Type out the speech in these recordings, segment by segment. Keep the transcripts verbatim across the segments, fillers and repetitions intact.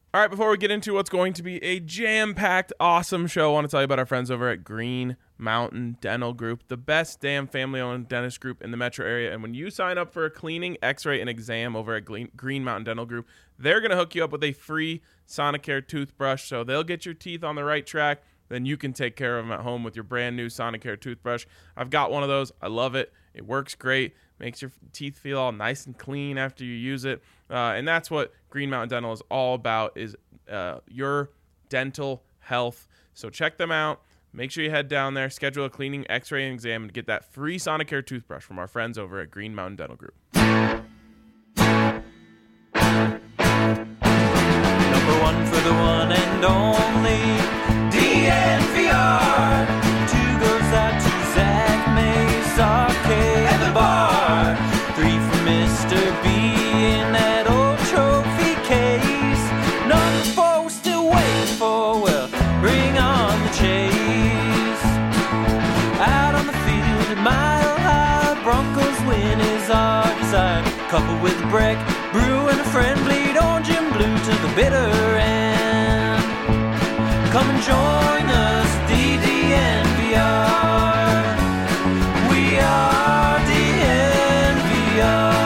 All right, before we get into what's going to be a jam-packed, awesome show, I want to tell you about our friends over at Green Mountain Dental Group, the best damn family-owned dentist group in the metro area. And when you sign up for a cleaning, x-ray, and exam over at Green Mountain Dental Group, they're going to hook you up with a free Sonicare toothbrush, so they'll get your teeth on the right track. Then you can take care of them at home with your brand new Sonicare toothbrush. I've got one of those. I love it. It works great. Makes your teeth feel all nice and clean after you use it. Uh, and that's what Green Mountain Dental is all about, is uh, your dental health. So check them out. Make sure you head down there, schedule a cleaning, x-ray, and exam, and get that free Sonicare toothbrush from our friends over at Green Mountain Dental Group. Number one for the one and only D N V R. Two goes out to Zach Mays, Arcade, and the bar. Three for Mister B in that old trophy case. Number four we're still waiting for, well, bring on the chase. Out on the field at Mile High, Broncos win is our desire. Couple with a break, brew and a friend, bleed orange and blue to the bitter end. Come and join us, D D N V R. We are D N V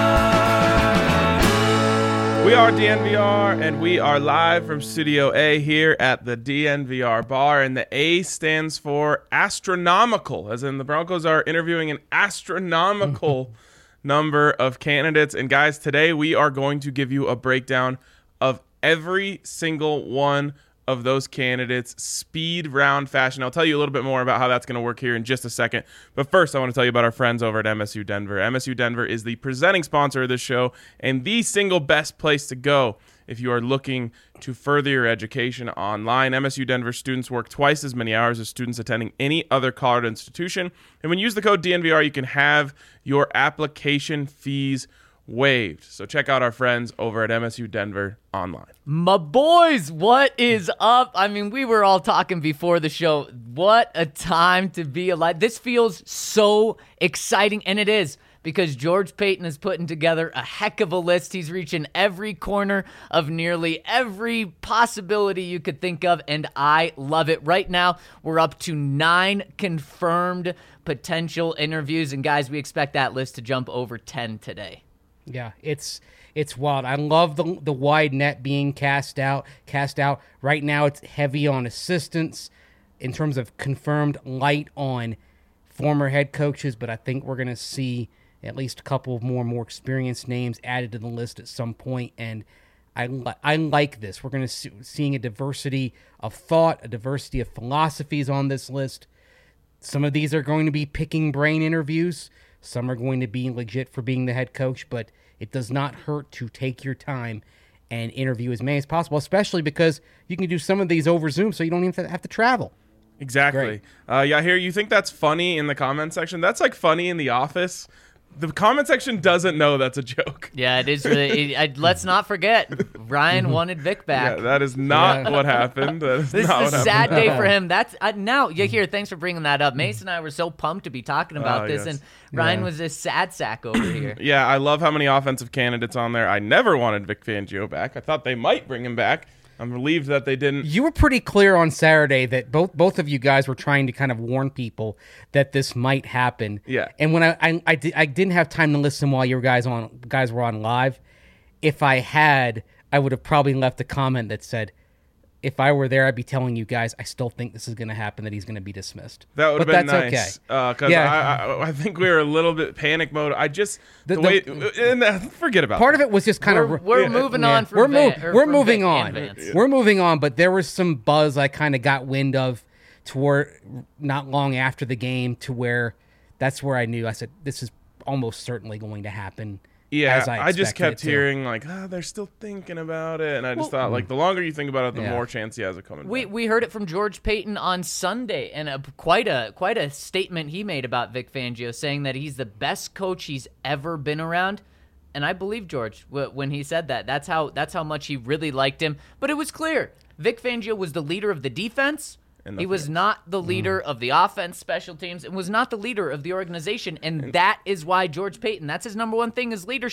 R. We are D N V R, and we are live from Studio A here at the D N V R bar, and the A stands for astronomical, as in the Broncos are interviewing an astronomical number of candidates. And guys, today we are going to give you a breakdown of every single one of those candidates, speed round fashion. I'll tell you a little bit more about how that's going to work here in just a second. But first, I want to tell you about our friends over at M S U Denver. M S U Denver is the presenting sponsor of this show and the single best place to go if you are looking to further your education online. M S U Denver students work twice as many hours as students attending any other college institution. And when you use the code D N V R, you can have your application fees waived. So check out our friends over at M S U Denver online. My boys, what is up? I mean, we were all talking before the show. What a time to be alive. This feels so exciting, and it is, because George Paton is putting together a heck of a list. He's reaching every corner of nearly every possibility you could think of, and I love it. Right now, we're up to nine confirmed potential interviews, and guys, we expect that list to jump over ten today. Yeah, it's it's wild. I love the the wide net being cast out. Cast out. Right now, it's heavy on assistants in terms of confirmed, light on former head coaches, but I think we're going to see at least a couple of more more experienced names added to the list at some point, and I, li- I like this. We're going to see seeing a diversity of thought, a diversity of philosophies on this list. Some of these are going to be picking brain interviews. Some are going to be legit for being the head coach, but it does not hurt to take your time and interview as many as possible, especially because you can do some of these over Zoom, so you don't even have to travel. Exactly. Uh, yeah, here, you think that's funny in the comment section? That's like funny in The Office. The comment section doesn't know that's a joke. Yeah, it is really. It, I, let's not forget, Ryan wanted Vic back. Yeah, that is not Yeah. what happened. That is This not is a what sad happened. day for him. That's uh, now. Yeah, here. Thanks for bringing that up. Mason and I were so pumped to be talking about Oh, this, yes. and Ryan Yeah. was a sad sack over here. Yeah, I love how many offensive candidates on there. I never wanted Vic Fangio back. I thought they might bring him back. I'm relieved that they didn't. You were pretty clear on Saturday that both both of you guys were trying to kind of warn people that this might happen. Yeah. And when I I, I, di- I didn't have time to listen while you guys on guys were on live, if I had, I would have probably left a comment that said, if I were there, I'd be telling you guys, I still think this is going to happen, that he's going to be dismissed. That would have But been that's nice. okay. Because Yeah. I, I, I think we were a little bit panic mode. I just the, The- way the- and, uh, forget about Part that. of it was just kind We're, of we're yeah, moving Yeah. on from we're, Van, mov- or we're from moving Vic on. and Vance. We're moving on, but there was some buzz I kind of got wind of toward not long after the game, to where that's where I knew. I said, this is almost certainly going to happen. Yeah, as I, I, just expected kept it to. hearing like, ah, they're still thinking about it, and I just Well- thought like the longer you think about it, the Yeah. more chance he has of coming We back. we heard it from George Paton on Sunday, and a, quite a quite a statement he made about Vic Fangio, saying that he's the best coach he's ever been around. And I believe George w- when he said that. That's how that's how much he really liked him. But it was clear Vic Fangio was the leader of the defense. And He nothing was else. not the leader of the offense, special teams, and was not the leader of the organization. And that is why George Paton, that's his number one thing, is leadership.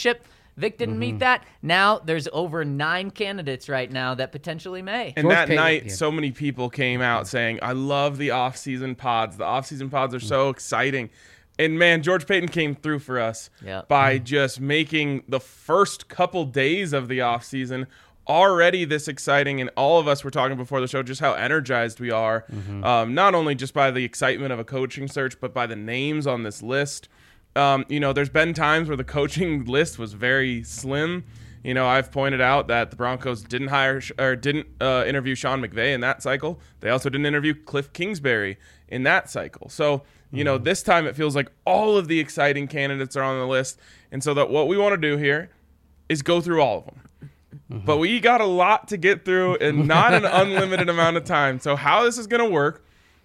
Vic didn't Mm-hmm. meet that. Now there's over nine candidates right now that potentially may. And George that Payton- night, yeah. so many people came out saying, I love the off-season pods. The off-season pods are so exciting. And, man, George Payton came through for us Yep. by just making the first couple days of the offseason already this exciting. And all of us were talking before the show just how energized we are, um, not only just by the excitement of a coaching search, but by the names on this list. Um, you know, there's been times where the coaching list was very slim. You know, I've pointed out that the Broncos didn't hire or didn't uh, interview Sean McVay in that cycle. They also didn't interview Cliff Kingsbury in that cycle. So, you know, this time it feels like all of the exciting candidates are on the list. And so that what we want to do here is go through all of them. But we got a lot to get through and not an unlimited amount of time. So how this is going to work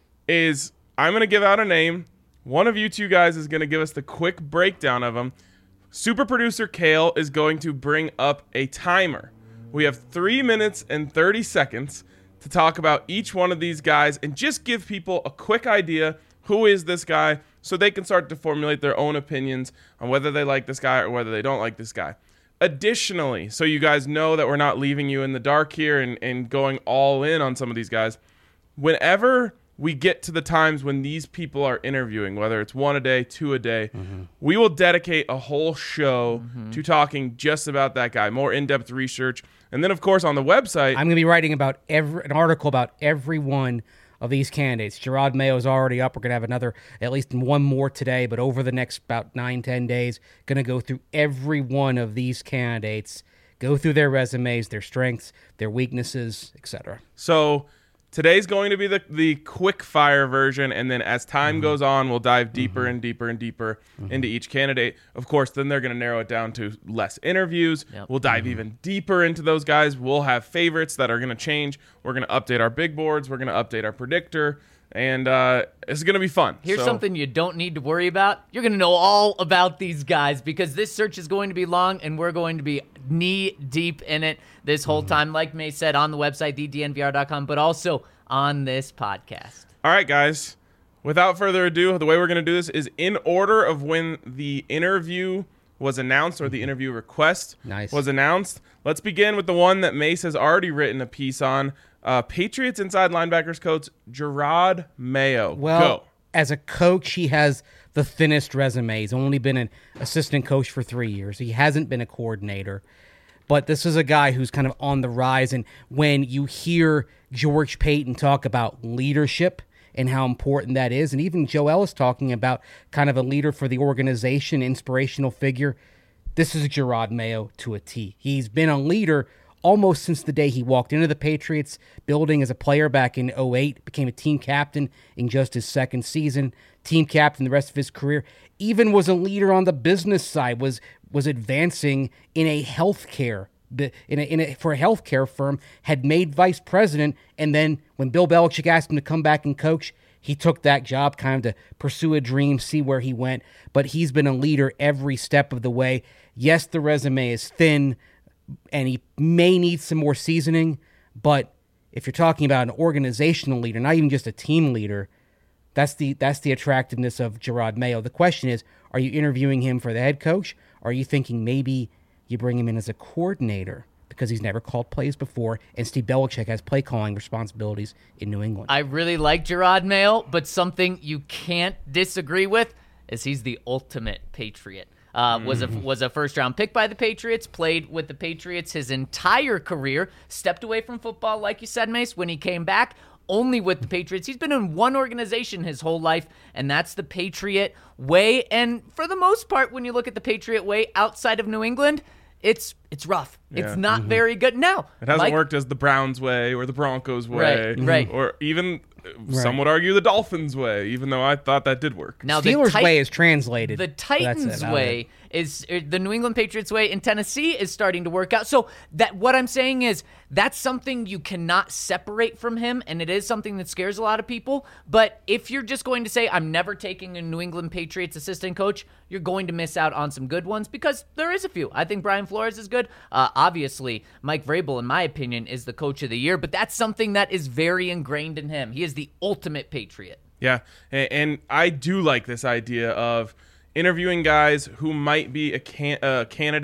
is I'm going to give out a name. One of you two guys is going to give us the quick breakdown of them. Super producer Kale is going to bring up a timer. We have three minutes and thirty seconds to talk about each one of these guys and just give people a quick idea who is this guy so they can start to formulate their own opinions on whether they like this guy or whether they don't like this guy. Additionally, so you guys know that we're not leaving you in the dark here and, and going all in on some of these guys, whenever we get to the times when these people are interviewing, whether it's one a day, two a day, mm-hmm. we will dedicate a whole show mm-hmm. to talking just about that guy, more in-depth research. And then, of course, on the website, I'm going to be writing about every an article about every one of these candidates. Gerard Mayo is already up. We're going to have another, at least one more today, but over the next about nine, ten days, going to go through every one of these candidates, go through their resumes, their strengths, their weaknesses, et cetera. So today's going to be the, the quick fire version, and then as time mm-hmm. goes on, we'll dive deeper mm-hmm. and deeper and deeper mm-hmm. into each candidate. Of course, then they're going to narrow it down to less interviews. Yep. We'll dive mm-hmm. even deeper into those guys. We'll have favorites that are going to change. We're going to update our big boards. We're going to update our predictor. And uh, it's going to be fun. Here's so, something you don't need to worry about. You're going to know all about these guys because this search is going to be long, and we're going to be knee-deep in it this whole mm-hmm. time, like May said, on the website, the D N V R dot com, but also on this podcast. All right, guys. Without further ado, the way we're going to do this is in order of when the interview was announced or the interview request nice. was announced. Let's begin with the one that Mace has already written a piece on. Uh, Patriots inside linebackers coach Gerard Mayo. Well, Go. As a coach, he has the thinnest resume. He's only been an assistant coach for three years. He hasn't been a coordinator. But this is a guy who's kind of on the rise. And when you hear George Payton talk about leadership and how important that is, and even Joe Ellis talking about kind of a leader for the organization, inspirational figure, this is Gerard Mayo to a T. He's been a leader almost since the day he walked into the Patriots building as a player back in oh eight, became a team captain in just his second season, team captain the rest of his career, even was a leader on the business side, was was advancing in a healthcare in a, in a for a healthcare firm, had made vice president, and then when Bill Belichick asked him to come back and coach, he took that job kind of to pursue a dream, see where he went. But he's been a leader every step of the way. Yes, the resume is thin, and he may need some more seasoning, but if you're talking about an organizational leader, not even just a team leader, that's the that's the attractiveness of Gerard Mayo. The question is, are you interviewing him for the head coach? Or are you thinking maybe you bring him in as a coordinator because he's never called plays before, and Steve Belichick has play calling responsibilities in New England? I really like Gerard Mayo, but something you can't disagree with is he's the ultimate Patriot. Uh, was a was a first round pick by the Patriots, played with the Patriots his entire career, stepped away from football, like you said, Mace, when he came back, only with the Patriots. He's been in one organization his whole life, and that's the Patriot way. And for the most part, when you look at the Patriot way outside of New England, it's it's rough. Yeah. It's not mm-hmm. very good. Now, it hasn't like, worked as the Browns way or the Broncos way, right, right. or even right. some would argue the Dolphins way, even though I thought that did work. Now, Steelers' the tit- way is translated. The Titans' way is er, the New England Patriots way in Tennessee is starting to work out. So that what I'm saying is that's something you cannot separate from him, and it is something that scares a lot of people. But if you're just going to say, I'm never taking a New England Patriots assistant coach, you're going to miss out on some good ones because there is a few. I think Brian Flores is good. Uh, obviously, Mike Vrabel, in my opinion, is the coach of the year, but that's something that is very ingrained in him. He is the ultimate Patriot. Yeah, and, and I do like this idea of interviewing guys who might be a, can, a candidate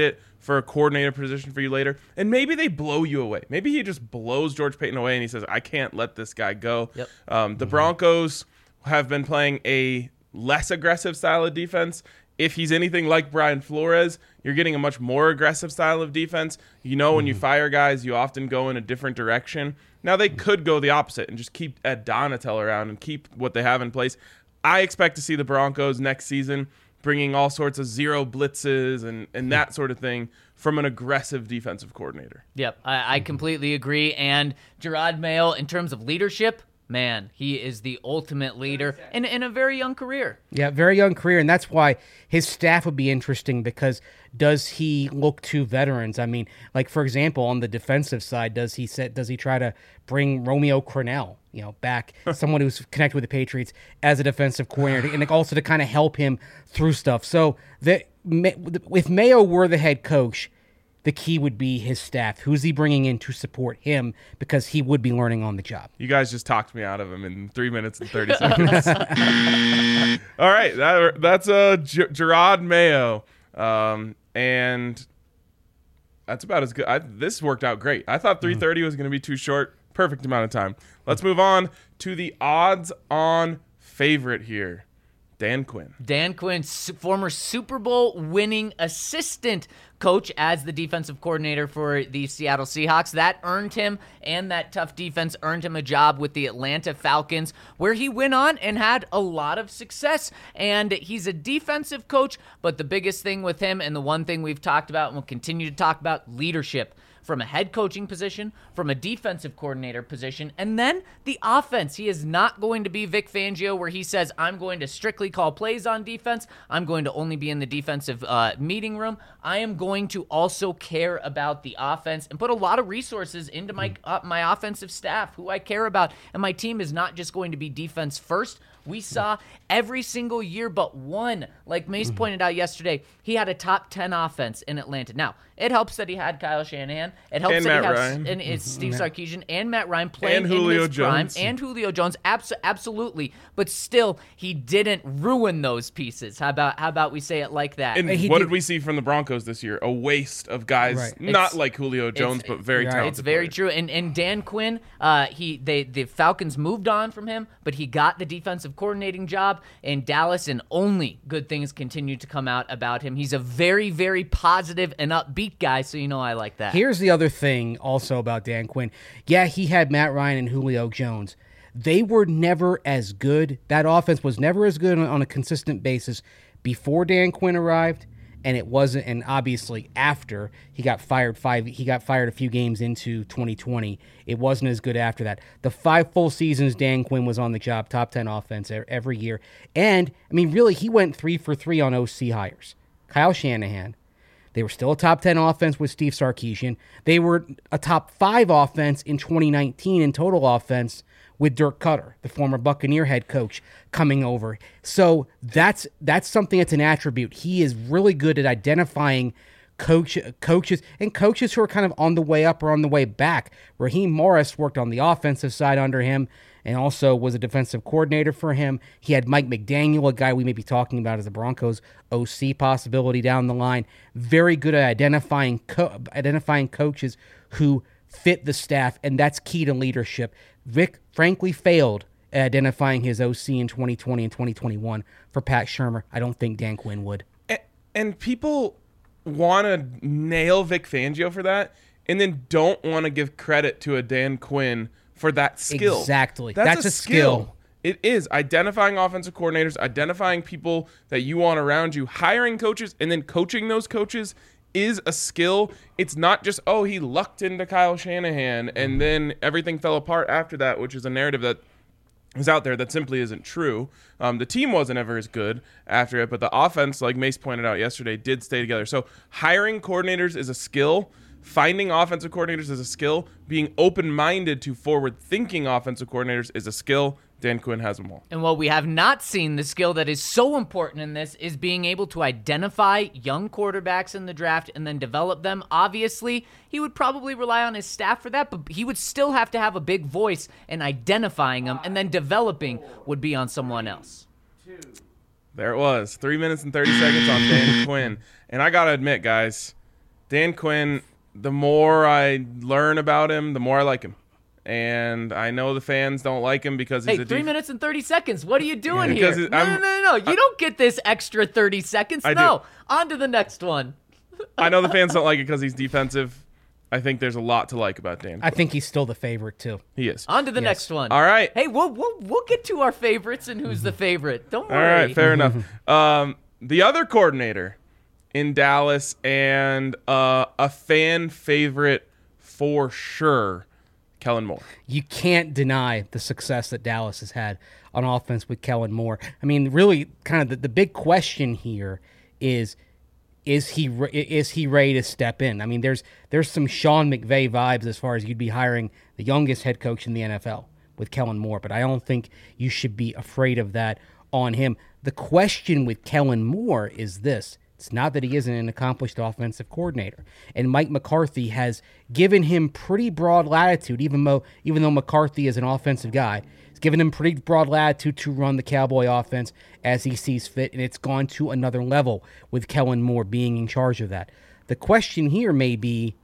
for a coordinator position for you later. And maybe they blow you away. Maybe he just blows George Paton away and he says, I can't let this guy go. Yep. Um, the Broncos have been playing a less aggressive style of defense. If he's anything like Brian Flores, you're getting a much more aggressive style of defense. You know, when you fire guys, you often go in a different direction. Now, they could go the opposite and just keep Ed Donatel around and keep what they have in place. I expect to see the Broncos next season bringing all sorts of zero blitzes and, and that sort of thing from an aggressive defensive coordinator. Yep, I, I completely agree. And Gerard Mayo, in terms of leadership, man, he is the ultimate leader in, in a very young career. Yeah, very young career, and that's why his staff would be interesting, because does he look to veterans? I mean, like, for example, on the defensive side, does he set, does he try to bring Romeo Crennel, you know, back, someone who's connected with the Patriots as a defensive coordinator, and also to kind of help him through stuff? So the, if Mayo were the head coach, the key would be his staff. Who's he bringing in to support him? Because he would be learning on the job. You guys just talked me out of him in three minutes and thirty seconds. All right, that, that's uh, G- Gerard Mayo. Um, and that's about as good. I, this worked out great. I thought three thirty was going to be too short. Perfect amount of time. Let's move on to the odds-on favorite here, Dan Quinn. Dan Quinn, su- former Super Bowl winning assistant coach as the defensive coordinator for the Seattle Seahawks. That earned him, and that tough defense earned him a job with the Atlanta Falcons, where he went on and had a lot of success. And he's a defensive coach, but the biggest thing with him, and the one thing we've talked about and will continue to talk about, leadership. From a head coaching position, from a defensive coordinator position, and then the offense. He is not going to be Vic Fangio, where he says, I'm going to strictly call plays on defense. I'm going to only be in the defensive uh, meeting room. I am going to also care about the offense and put a lot of resources into my uh, my offensive staff, who I care about. And my team is not just going to be defense first. We saw every single year but one, like Mace mm-hmm. pointed out yesterday, he had a top ten offense in Atlanta. Now, it helps that he had Kyle Shanahan. It helps and that Matt he had Ryan. and it's Steve Sarkisian and Matt Ryan playing and Julio in his prime. Jones. And Julio Jones. Abs- absolutely. But still, he didn't ruin those pieces. How about how about we say it like that? And he what did- did we see from the Broncos this year? A waste of guys, Right. not It's- like Julio Jones, it's- but very right. talented. It's very players. true. And and Dan Quinn, uh, he they the Falcons moved on from him, but he got the defensive coordinating job in Dallas, and only good things continue to come out about him. He's a very, very positive and upbeat guy, so you know I like that. Here's the other thing also about Dan Quinn. Yeah, he had Matt Ryan and Julio Jones. They were never as good. That offense was never as good on, on a consistent basis before Dan Quinn arrived, and it wasn't. And obviously after he got fired, five he got fired a few games into twenty twenty. It wasn't as good after that. The five full seasons Dan Quinn was on the job, top ten offense every year, and I mean, really, he went three for three on O C hires. Kyle Shanahan. They were still a top ten offense with Steve Sarkisian. They were a top five offense in twenty nineteen in total offense with Dirk Cutter, the former Buccaneer head coach, coming over. So that's that's something that's an attribute. He is really good at identifying coach coaches and coaches who are kind of on the way up or on the way back. Raheem Morris worked on the offensive side under him and also was a defensive coordinator for him. He had Mike McDaniel, a guy we may be talking about as the Broncos O C possibility down the line. Very good at identifying co- identifying coaches who fit the staff, and that's key to leadership. Vic frankly failed at identifying his O C in twenty twenty and twenty twenty-one for Pat Shurmur. I don't think Dan Quinn would. And, and people want to nail Vic Fangio for that, and then don't want to give credit to a Dan Quinn for that skill. Exactly. That's, That's a, a skill. skill. It is identifying offensive coordinators, identifying people that you want around you, hiring coaches, and then coaching those coaches is a skill. It's not just, oh, he lucked into Kyle Shanahan and then everything fell apart after that, which is a narrative that is out there that simply isn't true. Um, the team wasn't ever as good after it, but the offense, like Mace pointed out yesterday, did stay together. So hiring coordinators is a skill. Finding offensive coordinators is a skill. Being open-minded to forward-thinking offensive coordinators is a skill. Dan Quinn has them all. And what we have not seen, the skill that is so important in this, is being able to identify young quarterbacks in the draft and then develop them. Obviously, he would probably rely on his staff for that, but he would still have to have a big voice in identifying them, and then developing would be on someone else. There it was. Three minutes and thirty seconds on Dan Quinn. And I got to admit, guys, Dan Quinn, the more I learn about him, the more I like him. And I know the fans don't like him because he's Hey, a three def- minutes and thirty seconds. What are you doing Because here? it- No, no, I'm- no, no, no. You I- don't get this extra thirty seconds. I no. do. On to the next one. I know the fans don't like it because he's defensive. I think there's a lot to like about Dan I Quinn. think he's still the favorite too. He is. On to the Yes. next one. All right. Hey, we'll, we'll, we'll get to our favorites and who's the favorite. Don't All worry. right, fair enough. Um, the other coordinator in Dallas and uh, a fan favorite for sure, Kellen Moore. You can't deny the success that Dallas has had on offense with Kellen Moore. I mean, really, kind of the, the big question here is is he re- is he ready to step in? I mean, there's there's some Sean McVay vibes as far as you'd be hiring the youngest head coach in the N F L with Kellen Moore, but I don't think you should be afraid of that on him. The question with Kellen Moore is this. It's not that he isn't an accomplished offensive coordinator. And Mike McCarthy has given him pretty broad latitude, even though even though McCarthy is an offensive guy. He's given him pretty broad latitude to run the Cowboy offense as he sees fit, and it's gone to another level with Kellen Moore being in charge of that. The question here may be,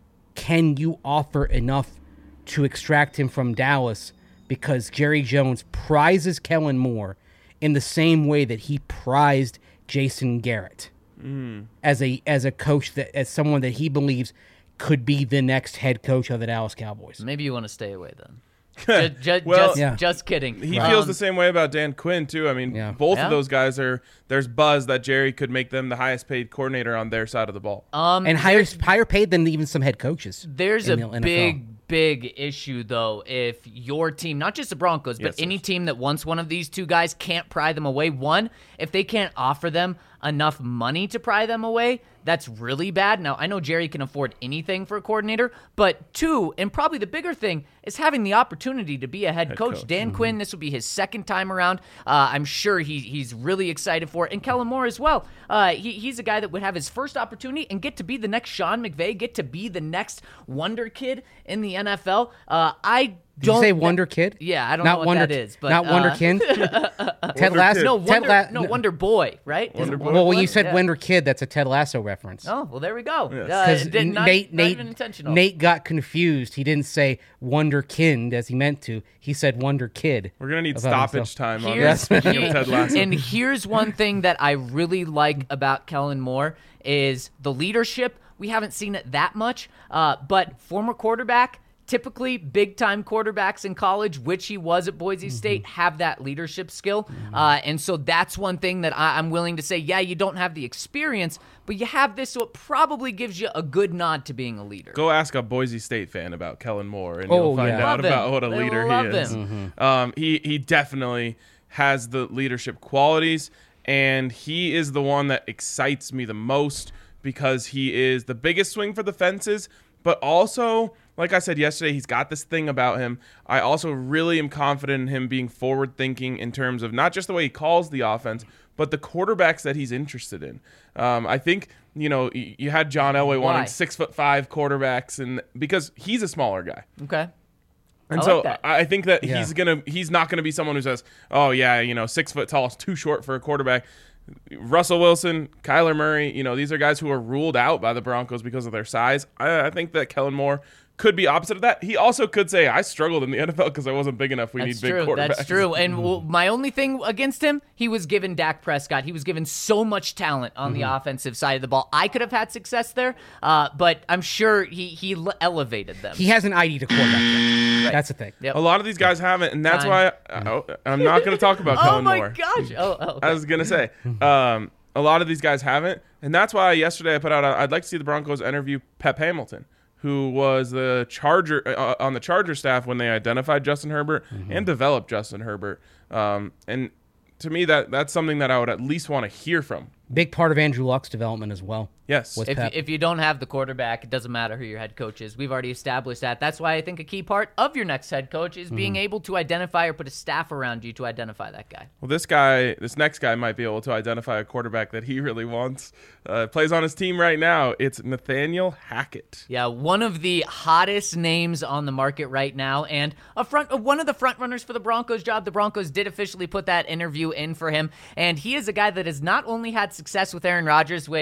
can you offer enough to extract him from Dallas because Jerry Jones prizes Kellen Moore in the same way that he prized Jason Garrett mm. as a as a coach, that as someone that he believes could be the next head coach of the Dallas Cowboys. Maybe you want to stay away then. just, just, Well, just, yeah. just kidding. He Um, feels the same way about Dan Quinn, too. I mean, Yeah. both Yeah. of those guys are, there's buzz that Jerry could make them the highest paid coordinator on their side of the ball. Um, And higher higher paid than even some head coaches. There's a in the N F L. big, big issue, though, if your team, not just the Broncos, but Yes, any yes. team that wants one of these two guys can't pry them away. One, if they can't offer them enough money to pry them away, that's really bad. Now, I know Jerry can afford anything for a coordinator, but two, and probably the bigger thing, is having the opportunity to be a head, coach. coach. Dan Quinn, this will be his second time around. Uh, I'm sure he, he's really excited for it. And Kellen Moore as well. Uh, he, he's a guy that would have his first opportunity and get to be the next Sean McVay, get to be the next wonder kid in the N F L. Uh, I Did don't you say Wonder Kid? Yeah, I don't not know what Wonder, that is, but not Wonder uh, Kid. Ted Wonder Lasso. Kid. No, Ted Wonder, La- no, Wonder Boy, right? Is it Wonder Boy. Wonder Well, when Boy? you said Yeah. Wonder Kid, that's a Ted Lasso reference. Oh, well, there we go. Yes. Uh, Because it did not, Nate, not Nate, even intentional. Nate got confused. He didn't say Wonderkind as he meant to. He said Wonder Kid. We're going to need About stoppage himself. time on Here's, this. Speaking of Ted Lasso. and here's one thing that I really like about Kellen Moore is the leadership. We haven't seen it that much, uh, but former quarterback, typically big-time quarterbacks in college, which he was at Boise State, have that leadership skill. Uh, and so that's one thing that I, I'm willing to say, yeah, you don't have the experience, but you have this, so it probably gives you a good nod to being a leader. Go ask a Boise State fan about Kellen Moore, and Oh, you'll find yeah. out Love about him. what a They leader love he is. him. Um, he he definitely has the leadership qualities, and he is the one that excites me the most because he is the biggest swing for the fences, but also, like I said yesterday, he's got this thing about him. I also really am confident in him being forward-thinking in terms of not just the way he calls the offense, but the quarterbacks that he's interested in. Um, I think, you know, y- you had John Elway Why? wanting six foot five quarterbacks, and because he's a smaller guy. Okay. And I so like that. I think that Yeah. he's gonna he's not gonna be someone who says, "Oh yeah, you know, six foot tall is too short for a quarterback." Russell Wilson, Kyler Murray, you know, these are guys who are ruled out by the Broncos because of their size. I, I think that Kellen Moore could be opposite of that. He also could say, "I struggled in the N F L because I wasn't big enough. We That's need big true. quarterbacks." That's true. And w- my only thing against him, he was given Dak Prescott. He was given so much talent on the offensive side of the ball. I could have had success there, uh, but I'm sure he he l- elevated them. He hasn't I D to quarterback yet. That's the thing. Yep. A lot of these guys haven't, and that's Time. why I, oh, I'm not going to talk about oh Kellen my Moore. gosh! Oh, oh okay. I was gonna say, um, a lot of these guys haven't, and that's why yesterday I put out. I'd like to see the Broncos interview Pep Hamilton, who was the Charger uh, on the Charger staff when they identified Justin Herbert and developed Justin Herbert. Um, and to me, that that's something that I would at least want to hear from. Big part of Andrew Luck's development as well. Yes. Was If, Pep. if you don't have the quarterback, it doesn't matter who your head coach is. We've already established that. That's why I think a key part of your next head coach is being able to identify or put a staff around you to identify that guy. Well, this guy, this next guy might be able to identify a quarterback that he really wants. Uh, plays on his team right now. It's Nathaniel Hackett. Yeah, one of the hottest names on the market right now, and a front, uh, one of the front runners for the Broncos job. The Broncos did officially put that interview in for him, and he is a guy that has not only had success with Aaron Rodgers, which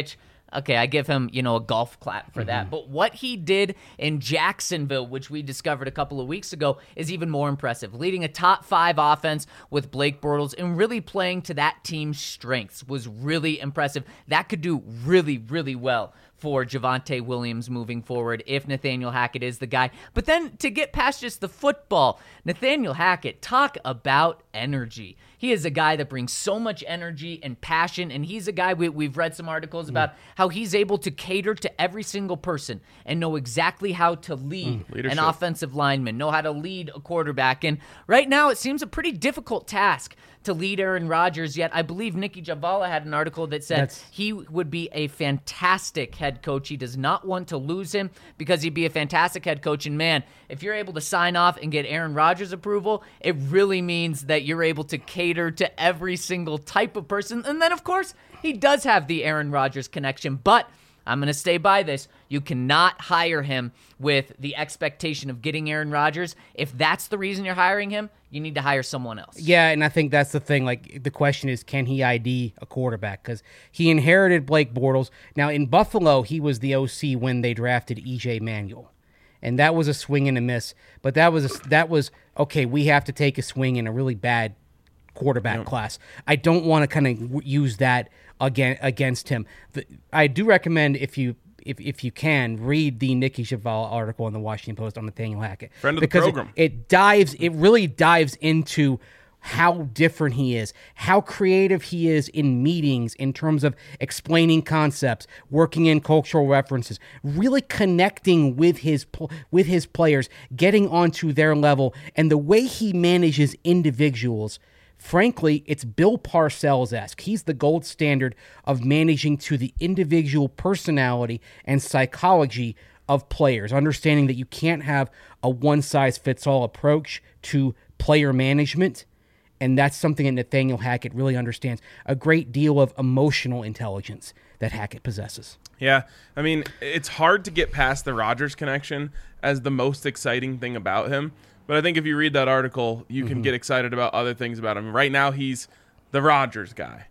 Okay, I give him, you know, a golf clap for Mm-hmm. that. But what he did in Jacksonville, which we discovered a couple of weeks ago, is even more impressive. Leading a top five offense with Blake Bortles and really playing to that team's strengths was really impressive. That could do really, really well for Javonte Williams moving forward if Nathaniel Hackett is the guy. But then to get past just the football, Nathaniel Hackett, talk about energy. He is a guy that brings so much energy and passion, and he's a guy, we, we've read some articles about how he's able to cater to every single person and know exactly how to lead Mm, leadership. an offensive lineman, know how to lead a quarterback. And right now it seems a pretty difficult task to lead Aaron Rodgers, yet I believe Nikki Javala had an article that said That's- he would be a fantastic head coach. He does not want to lose him because he'd be a fantastic head coach. And man, if you're able to sign off and get Aaron Rodgers approval, it really means that you're able to cater to every single type of person. And then, of course, he does have the Aaron Rodgers connection, but I'm going to stay by this. You cannot hire him with the expectation of getting Aaron Rodgers. If that's the reason you're hiring him, you need to hire someone else. Yeah, and I think that's the thing. Like, the question is, can he I D a quarterback? Because he inherited Blake Bortles. Now, in Buffalo, he was the O C when they drafted E J Manuel. And that was a swing and a miss. But that was, a, that was okay, we have to take a swing in a really bad quarterback Yep. class. I don't want to kind of use that again against him. The, I do recommend, if you if if you can, read the Nikki Javala article in the Washington Post on Nathaniel Hackett. Friend of the because program. It, it dives, it really dives into how different he is, how creative he is in meetings in terms of explaining concepts, working in cultural references, really connecting with his pl- with his players, getting onto their level, and the way he manages individuals. Frankly, it's Bill Parcells-esque. He's the gold standard of managing to the individual personality and psychology of players, understanding that you can't have a one-size-fits-all approach to player management, and that's something that Nathaniel Hackett really understands. A great deal of emotional intelligence that Hackett possesses. Yeah, I mean, it's hard to get past the Rodgers connection as the most exciting thing about him. But I think if you read that article, you can Mm-hmm. get excited about other things about him. Right now, he's the Rodgers guy,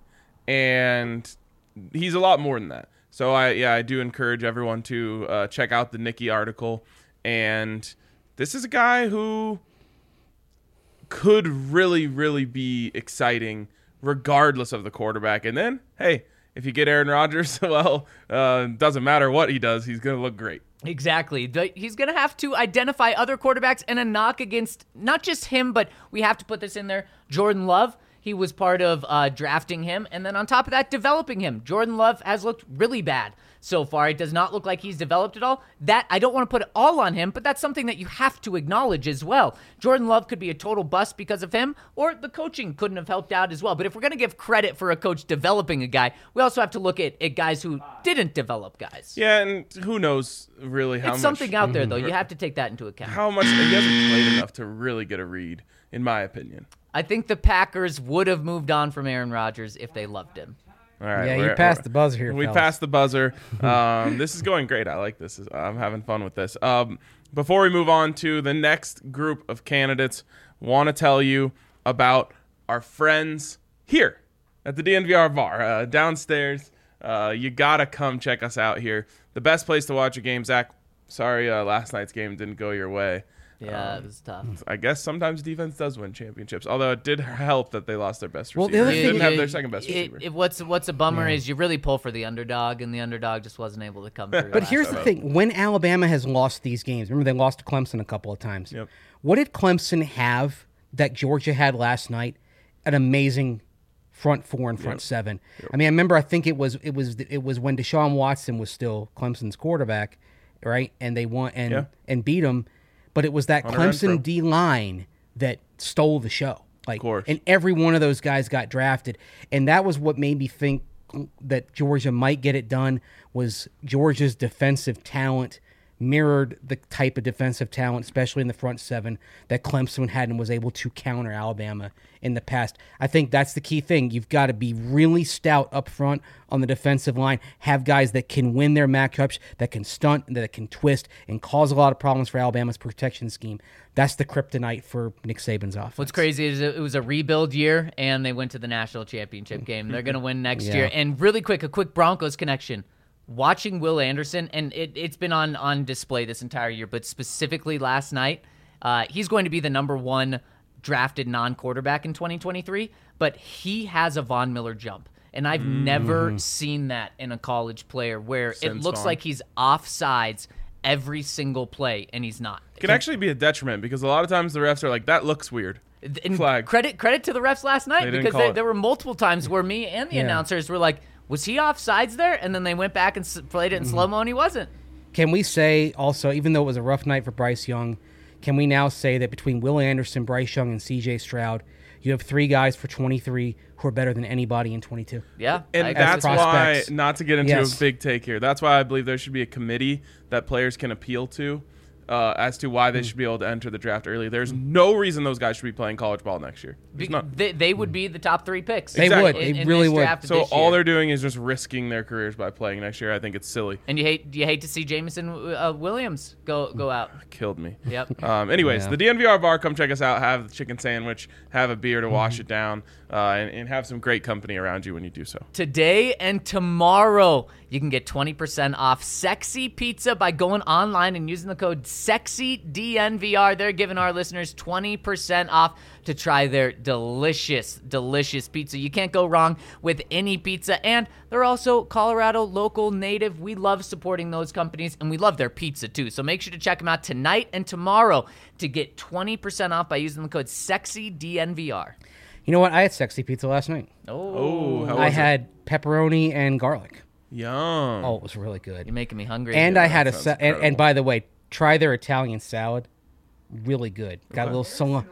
and he's a lot more than that. So I, yeah, I do encourage everyone to uh, check out the Nikki article. And this is a guy who could really, really be exciting, regardless of the quarterback. And then, hey, if you get Aaron Rodgers, well, uh, doesn't matter what he does, he's going to look great. Exactly. The, he's going to have to identify other quarterbacks, and a knock against not just him, but we have to put this in there, Jordan Love. He was part of uh, drafting him, and then on top of that, developing him. Jordan Love has looked really bad so far. It does not look like he's developed at all. That, I don't want to put it all on him, but that's something that you have to acknowledge as well. Jordan Love could be a total bust because of him, or the coaching couldn't have helped out as well. But if we're going to give credit for a coach developing a guy, we also have to look at, at guys who didn't develop guys. Yeah, and who knows really how It's much something out there, though. You have to take that into account. how much he hasn't played enough to really get a read, in my opinion. I think the Packers would have moved on from Aaron Rodgers if they loved him. All right, Yeah, you we're- passed we're- the buzzer here, We fellas. passed the buzzer. Um, this is going great. I like this. I'm having fun with this. Um, before we move on to the next group of candidates, want to tell you about our friends here at the D N V R bar uh, downstairs. Uh, you gotta come check us out here. The best place to watch a game. Zach, sorry, uh, last night's game didn't go your way. Yeah, it was tough. I guess sometimes defense does win championships. Although it did help that they lost their best Well, receiver. the other They thing didn't have You- their second best it- receiver. it- what's what's a bummer is you really pull for the underdog, and the underdog just wasn't able to come through. But here's the thing. When Alabama has lost these games, remember they lost to Clemson a couple of times. Yep. What did Clemson have that Georgia had last night? An amazing front four and front Yep. seven. I mean, I remember I think it was it was it was when Deshaun Watson was still Clemson's quarterback, right? And they won and Yeah. and beat him. But it was that Hunter Clemson Renfrow. D line that stole the show. Like, course. and every one of those guys got drafted, and that was what made me think that Georgia might get it done. Was Georgia's defensive talent mirrored the type of defensive talent, especially in the front seven, that Clemson had and was able to counter Alabama in the past. I think that's the key thing. You've got to be really stout up front on the defensive line, have guys that can win their matchups, that can stunt, that can twist, and cause a lot of problems for Alabama's protection scheme. That's the kryptonite for Nick Saban's offense. What's crazy is it was a rebuild year, and they went to the national championship game. They're going to win next Yeah. year. And really quick, a quick Broncos connection. watching Will Anderson, and it, it's been on, on display this entire year, but specifically last night, uh, he's going to be the number one drafted non-quarterback in twenty twenty-three, but he has a Von Miller jump. And I've mm. never seen that in a college player where Since it looks Von. like he's offsides every single play, and he's not. It can actually be a detriment because a lot of times the refs are like, that looks weird. And Flag. Credit credit to the refs last night They because they, there were multiple times where me and the Yeah. announcers were like, was he offsides there? And then they went back and s- played it in mm. slow-mo, and he wasn't. Can we say also, even though it was a rough night for Bryce Young, can we now say that between Will Anderson, Bryce Young, and C J Stroud, you have three guys for twenty-three who are better than anybody in twenty-two? Yeah. And I- that's why, prospects. not to get into Yes. a big take here, that's why I believe there should be a committee that players can appeal to uh, as to why they should be able to enter the draft early. There's no reason those guys should be playing college ball next year. There's Be- none. they, they would be the top three picks. They Exactly. would. in- They in really this would. draft So this all year. they're doing is just risking their careers by playing next year. I think it's silly. And you hate you hate to see Jameson uh, Williams go go out. Killed me. Yep. Um, anyways, Yeah. the D N V R bar, come check us out. Have the chicken sandwich, have a beer to wash it down, uh, and, and have some great company around you when you do so. Today and tomorrow, you can get twenty percent off Sexy Pizza by going online and using the code SEXYDNVR. They're giving our listeners twenty percent off to try their delicious, delicious pizza. You can't go wrong with any pizza, and they're also Colorado local native. We love supporting those companies, and we love their pizza too. So make sure to check them out tonight and tomorrow to get twenty percent off by using the code SEXYDNVR. You know what? I had sexy pizza last night. Oh, how I was it? had pepperoni and garlic. Yum. Oh, it was really good. You're making me hungry. And here. I had a sounds sa- and, incredible. and by the way, try their Italian salad. Really good. Got a little salami.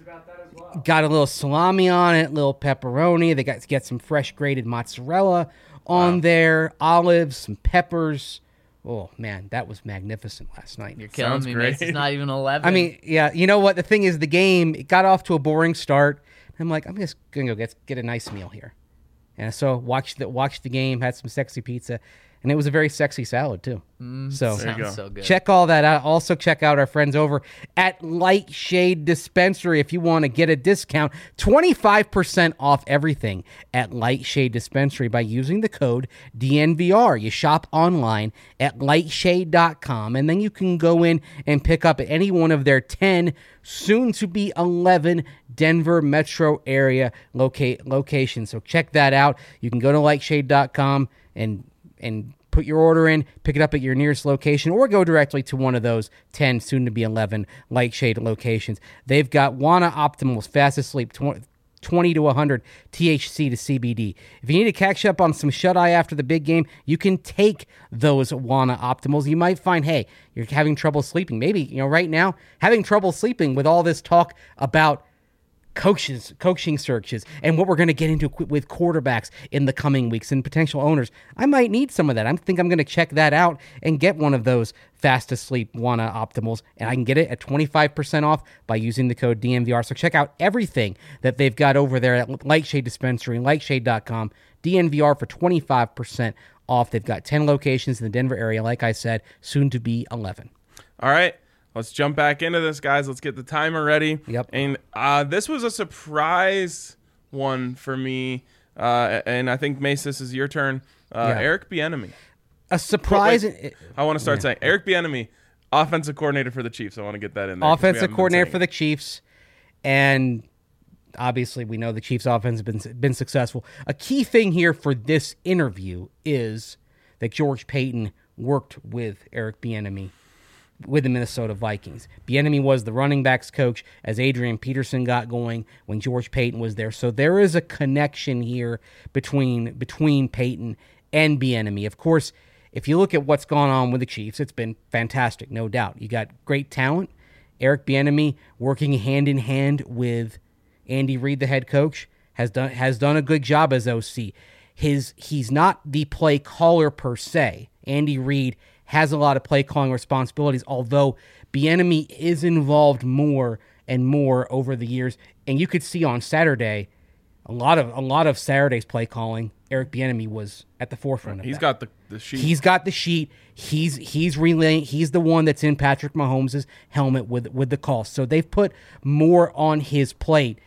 Got a little salami on it, little pepperoni. They got to get some fresh grated mozzarella on Wow. there, olives, some peppers. Oh man, that was magnificent last night. You're killing Sounds me, great. Mace. It's not even eleven. I mean, yeah, you know what? The thing is, the game it got off to a boring start. I'm like, I'm just gonna go get get a nice meal here, and so watched the watched the game, had some sexy pizza, and it was a very sexy salad too. so There you go. sounds so good. check all that out. Also, check out our friends over at Light Shade Dispensary if you want to get a discount. twenty-five percent off everything at Light Shade Dispensary by using the code D N V R. You shop online at lightshade dot com, and then you can go in and pick up at any one of their ten, soon to be eleven Denver metro area loca- locations. So check that out. You can go to lightshade dot com and and put your order in, pick it up at your nearest location, or go directly to one of those ten, soon to be eleven Lightshade locations. They've got Wana Optimals, fastest sleep, twenty to one hundred T H C to C B D. If you need to catch up on some shut-eye after the big game, you can take those Wana Optimals. You might find, hey, you're having trouble sleeping. Maybe, you know, right now, having trouble sleeping with all this talk about coaches, coaching searches, and what we're going to get into qu- with quarterbacks in the coming weeks and potential owners. I might need some of that. I think I'm going to check that out and get one of those fast asleep Wana Optimals, and I can get it at twenty-five percent off by using the code D N V R. So check out everything that they've got over there at Lightshade Dispensary and lightshade dot com. D N V R for twenty-five percent off. They've got ten locations in the Denver area, like I said, soon to be eleven. All right. Let's jump back into this, guys. Let's get the timer ready. Yep. And uh, this was a surprise one for me. Uh, and I think, Mace, this is your turn. Uh, Yeah. Eric Bieniemy. A surprise. Wait, I want to start saying Eric Bieniemy, offensive coordinator for the Chiefs. I want to get that in there. 'cause we Offensive haven't been coordinator saying for it. the Chiefs, and obviously we know the Chiefs' offense has been been successful. A key thing here for this interview is that George Paton worked with Eric Bieniemy with the Minnesota Vikings. Bieniemy was the running backs coach as Adrian Peterson got going when George Paton was there. So there is a connection here between between Paton and Bieniemy. Of course, if you look at what's gone on with the Chiefs, it's been fantastic, no doubt. You got great talent. Eric Bieniemy working hand in hand with Andy Reid, the head coach, has done has done a good job as O C. His he's not the play caller per se. Andy Reid has a lot of play calling responsibilities, although Bieniemy is involved more and more over the years. And you could see on Saturday, a lot of a lot of Saturday's play calling, Eric Bieniemy was at the forefront of He's that. got the, the sheet. He's got the sheet. He's he's relaying. He's the one that's in Patrick Mahomes' helmet with with the call. So they've put more on his plate.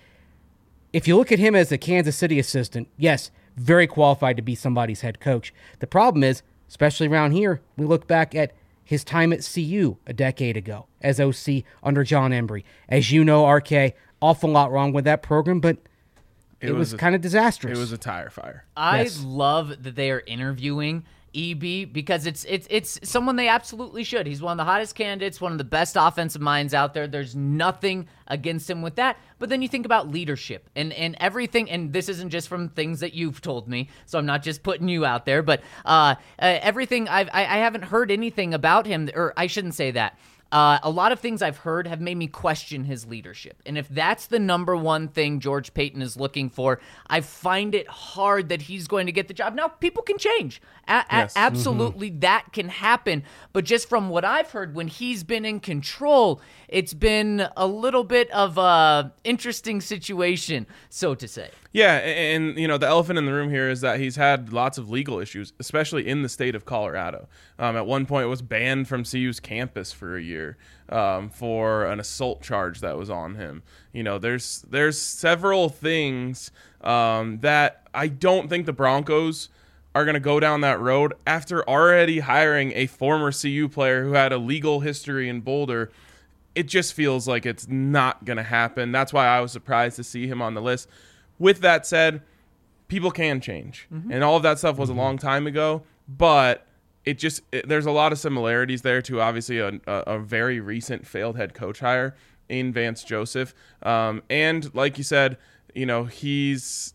If you look at him as a Kansas City assistant, yes, very qualified to be somebody's head coach. The problem is especially around here, we look back at his time at C U a decade ago as O C under John Embry. As you know, R K, awful lot wrong with that program, but it, it was, was kind of disastrous. It was a tire fire. I Yes. love that they are interviewing E B because it's it's it's someone they absolutely should. He's one of the hottest candidates, one of the best offensive minds out there. There's nothing against him with that. But then you think about leadership and, and everything, and this isn't just from things that you've told me, so I'm not just putting you out there, but uh, uh, everything, I've, I, I haven't heard anything about him, or I shouldn't say that. Uh, a lot of things I've heard have made me question his leadership. And if that's the number one thing George Paton is looking for, I find it hard that he's going to get the job. Now, people can change. A- Yes. a- absolutely, mm-hmm. that can happen. But just from what I've heard, when he's been in control, it's been a little bit of a interesting situation, so to say. Yeah, and, and you know the elephant in the room here is that he's had lots of legal issues, especially in the state of Colorado. Um, at one point, it was banned from C U's campus for a year um, for an assault charge that was on him. You know, there's there's several things um, that I don't think the Broncos are going to go down that road after already hiring a former C U player who had a legal history in Boulder. It just feels like it's not going to happen. That's why I was surprised to see him on the list. With that said, people can change, mm-hmm. and all of that stuff was mm-hmm. a long time ago, but it just it, there's a lot of similarities there to obviously a, a, a very recent failed head coach hire in Vance Joseph. Um, and like you said, you know, he's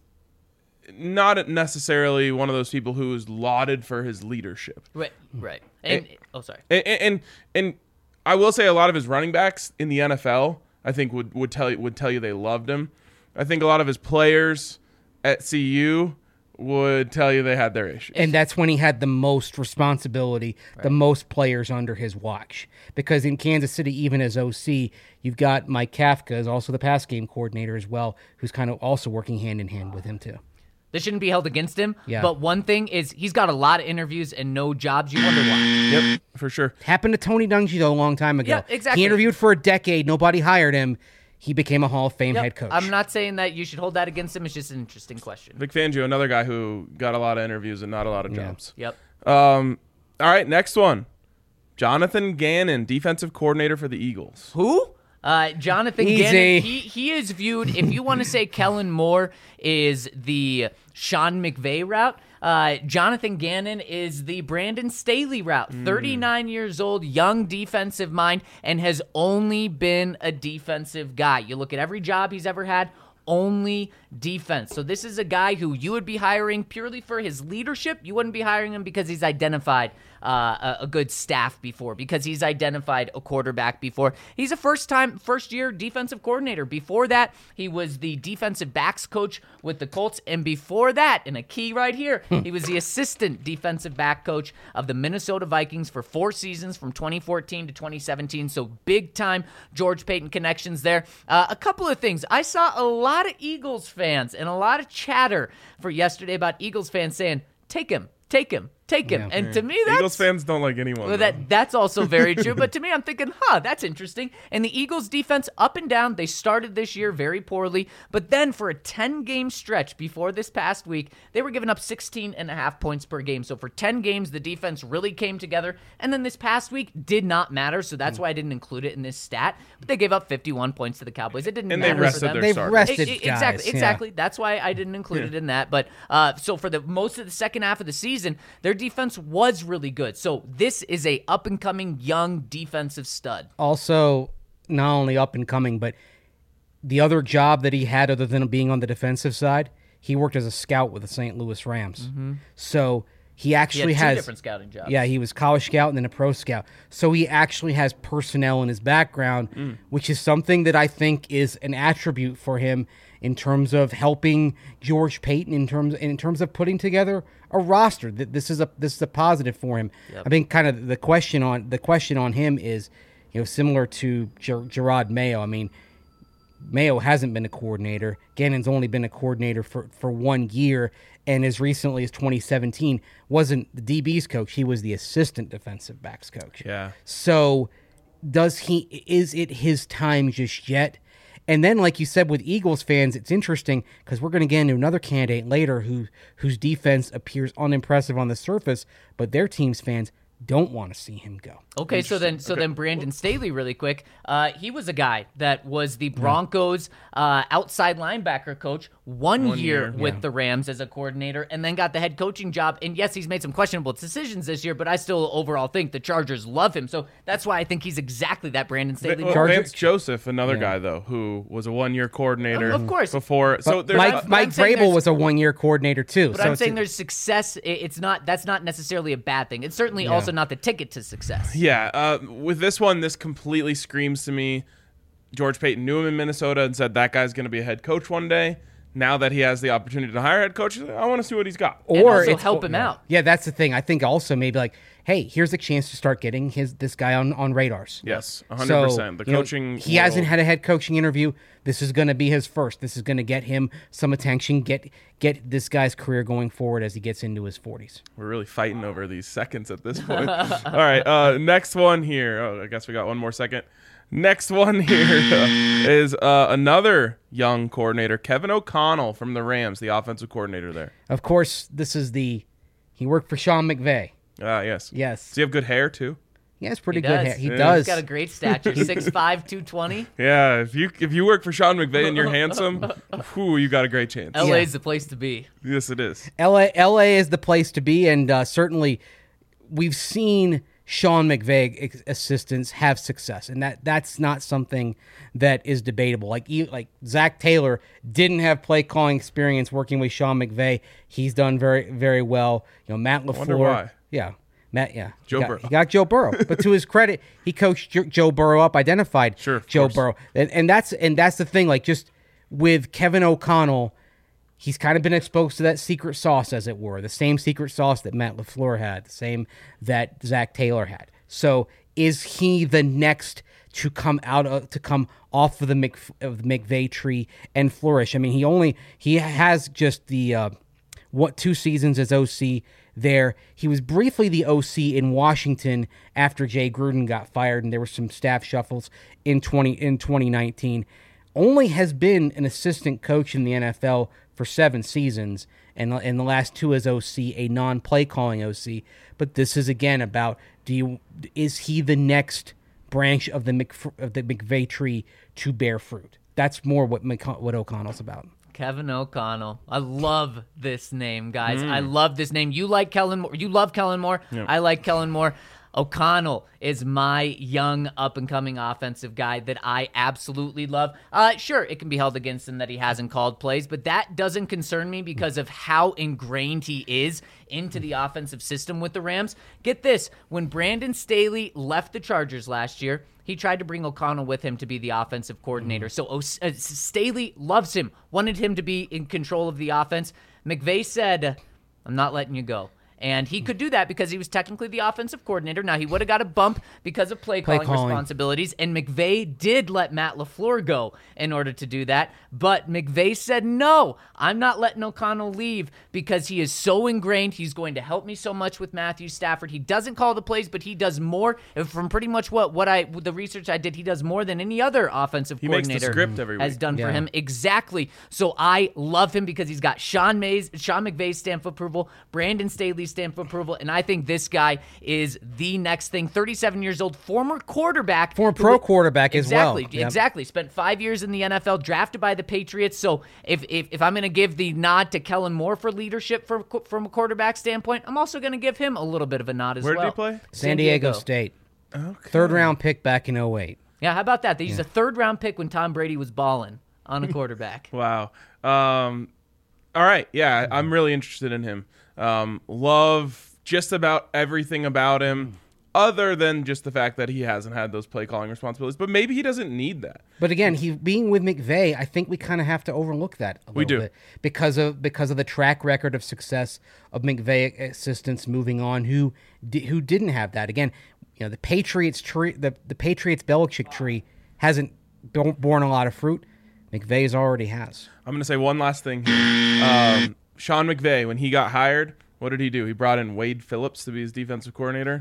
not necessarily one of those people who is lauded for his leadership. Right, right. And, and oh, sorry. And, and and I will say a lot of his running backs in the N F L, I think would would tell you would tell you they loved him. I think a lot of his players at C U would tell you they had their issues. And that's when he had the most responsibility, right. the most players under his watch. Because in Kansas City, even as O C, you've got Mike Kafka, is also the pass game coordinator as well, who's kind of also working hand in hand with him too. This shouldn't be held against him. Yeah. But one thing is he's got a lot of interviews and no jobs. You wonder why. Yep, for sure. Happened to Tony Dungy, though, a long time ago. Yeah, exactly. He interviewed for a decade. Nobody hired him. He became a Hall of Fame Yep. head coach. I'm not saying that you should hold that against him. It's just an interesting question. Vic Fangio, another guy who got a lot of interviews and not a lot of Yeah. jobs. Yep. Um, all right, next one. Jonathan Gannon, defensive coordinator for the Eagles. Who? Uh, Jonathan Easy. Gannon. He, he is viewed, if you want to say Kellen Moore is the Sean McVay route, uh, Jonathan Gannon is the Brandon Staley route. Mm. thirty-nine years old, young defensive mind, and has only been a defensive guy. You look at every job he's ever had, only defense. So this is a guy who you would be hiring purely for his leadership. You wouldn't be hiring him because he's identified uh, a, a good staff before, because he's identified a quarterback before. He's a first-time, first-year defensive coordinator. Before that, he was the defensive backs coach with the Colts, and before that, and a key right here, he was the assistant defensive back coach of the Minnesota Vikings for four seasons from twenty fourteen to twenty seventeen. So big-time George Paton connections there. Uh, a couple of things. I saw a lot of Eagles fans and a lot of chatter for yesterday about Eagles fans saying, take him, take him, take him. Yeah. And to me, that's... Eagles fans don't like anyone. Well, though. that that's also very true. But to me, I'm thinking, huh, that's interesting. And the Eagles defense up and down, they started this year very poorly. But then for a ten-game stretch before this past week, they were giving up sixteen and a half points per game. So for ten games, the defense really came together. And then this past week did not matter. So that's why I didn't include it in this stat. But they gave up fifty-one points to the Cowboys. It didn't And they matter rested for them. their They've starters. rested E- e- guys. Exactly, yeah. exactly. That's why I didn't include it in that. But uh, so for the most of the second half of the season, their defense was really good. So this is a up and coming young defensive stud. Also, not only up and coming, but the other job that he had other than being on the defensive side, he worked as a scout with the Saint Louis Rams. Mm-hmm. So he He actually had two has different scouting jobs. Yeah, he was college scout and then a pro scout. So he actually has personnel in his background, Mm. which is something that I think is an attribute for him in terms of helping George Paton in terms in terms of putting together a roster. That this is a this is a positive for him. Yep. I think kind of the question on the question on him is, you know, similar to Ger- Gerard Mayo. I mean, Mayo hasn't been a coordinator. Gannon's only been a coordinator for, for one year, and as recently as twenty seventeen wasn't the D B's coach. He was the assistant defensive backs coach. Yeah. So does he, is it his time just yet? And then, like you said, with Eagles fans, it's interesting because we're going to get into another candidate later who whose defense appears unimpressive on the surface, but their team's fans don't want to see him go. Okay, so then, so Okay. then, Brandon Staley, really quick. Uh, he was a guy that was the Broncos' uh, outside linebacker coach one, One year, year. with Yeah. the Rams as a coordinator, and then got the head coaching job. And yes, he's made some questionable decisions this year, but I still overall think the Chargers love him. So that's why I think he's exactly that Brandon Staley. Well, Chargers- Vance Joseph, another guy though, who was a one-year coordinator. Of course. Before, so But there's Mike, but Mike I'm saying Vrabel there's- was a one-year coordinator too. But so I'm it's- saying there's success. i- It's not. That's not necessarily a bad thing. It's certainly also not the ticket to success. Yeah, uh, with this one, this completely screams to me. George Payton knew him in Minnesota and said that guy's going to be a head coach one day. Now that he has the opportunity to hire a head coach, he's like, I want to see what he's got. And or also it's- help him yeah. out. Yeah, that's the thing. I think also maybe like, hey, here's a chance to start getting his this guy on, on radars. Yes, one hundred So, percent. The you know, coaching. he hasn't world- had a head coaching interview. This is going to be his first. This is going to get him some attention. Get get this guy's career going forward as he gets into his forties. We're really fighting over these seconds at this point. All right, uh, next one here. Oh, I guess we got one more second. Next one here uh, is uh, another young coordinator, Kevin O'Connell from the Rams, the offensive coordinator there. Of course, this is the he worked for Sean McVay. Ah, yes. Yes, Does he have good hair too? he has pretty He good does. hair. He Yeah. does. He's got a great stature, six five, two twenty. Yeah. If you if you work for Sean McVay and you're handsome, whew, you got a great chance. L A's the place to be. Yes, it is. L A L A is the place to be, and uh, certainly we've seen Sean McVay ex- assistants have success, and that that's not something that is debatable. Like e- like Zach Taylor didn't have play calling experience working with Sean McVay. He's done very very well. You know, Matt LaFleur. wonder why. Yeah. Matt, yeah, Joe he got, Burrow. He got Joe Burrow, but to his credit, he coached Jo- Joe Burrow up, identified Sure, of Joe course. Burrow, and, and that's and that's the thing. Like just with Kevin O'Connell, he's kind of been exposed to that secret sauce, as it were, the same secret sauce that Matt LaFleur had, the same that Zach Taylor had. So, is he the next to come out of, to come off of the Mc, of the McVay tree and flourish? I mean, he only he has just the uh, what two seasons as O C there. He was briefly the O C in Washington after Jay Gruden got fired, and there were some staff shuffles in twenty in twenty nineteen. Only has been an assistant coach in the N F L for seven seasons, and in the last two as O C, a non-play calling O C. But this is again about do you is he the next branch of the Mc, of the McVay tree to bear fruit? That's more what McC- what O'Connell's about. Kevin O'Connell. I love this name, guys. Mm. I love this name. You like Kellen Moore. You love Kellen Moore. I like Kellen Moore. O'Connell is my young up-and-coming offensive guy that I absolutely love. Uh, sure, it can be held against him that he hasn't called plays, but that doesn't concern me because of how ingrained he is into the offensive system with the Rams. Get this, when Brandon Staley left the Chargers last year, he tried to bring O'Connell with him to be the offensive coordinator. So o- uh, Staley loves him, wanted him to be in control of the offense. McVay said, I'm not letting you go. And he could do that because he was technically the offensive coordinator. Now, he would have got a bump because of play calling, calling. responsibilities, and McVay did let Matt LaFleur go in order to do that. But McVay said, no, I'm not letting O'Connell leave because he is so ingrained. He's going to help me so much with Matthew Stafford. He doesn't call the plays, but he does more. From pretty much what, what I the research I did, he does more than any other offensive He makes the coordinator script every has week. done Yeah. for him. Exactly. So I love him because he's got Sean Mays, Sean McVay's stamp of approval, Brandon Staley's stamp of approval, and I think this guy is the next thing. thirty-seven years old, former quarterback. Former who- pro quarterback as well. Exactly. Yep. Exactly. Spent five years in the N F L, drafted by the Patriots. So if if, if I'm going to give the nod to Kellen Moore for leadership for, from a quarterback standpoint, I'm also going to give him a little bit of a nod as Where well. did he play? San Diego State. Okay. Third round pick back in oh eight. Yeah, how about that? They used a third round pick when Tom Brady was balling on a quarterback. Wow. Um, all right. Yeah, I'm really interested in him. Um, love just about everything about him, other than just the fact that he hasn't had those play calling responsibilities. But maybe he doesn't need that. But again, he being with McVay, I think we kind of have to overlook that a We little do. bit because of because of the track record of success of McVay assistants moving on who di- who didn't have that. Again, you know, the Patriots tree, the the Patriots Belichick tree hasn't b- borne a lot of fruit. McVay's already has. I'm going to say one last thing here. Um, Sean McVay, when he got hired, What did he do? He brought in Wade Phillips to be his defensive coordinator.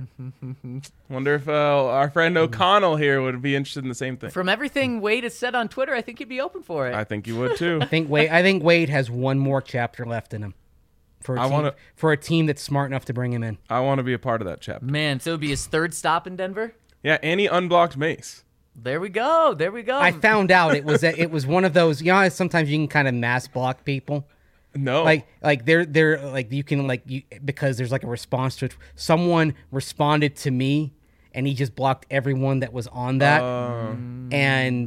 Wonder if uh, our friend O'Connell here would be interested in the same thing. From everything Wade has said on Twitter, I think he'd be open for it. I think you would too. I think Wade. I think Wade has one more chapter left in him for a I team, wanna- for a team that's smart enough to bring him in. I want to be a part of that chapter. Man, so it would be his third stop in Denver? Yeah, and he unblocked Mace. There we go. There we go. I found out it was a, it was one of those. You know, how sometimes you can kind of mass block people. No. Like like they're they're like you can like you because there's like a response to it. Someone responded to me, and he just blocked everyone that was on that. Uh, And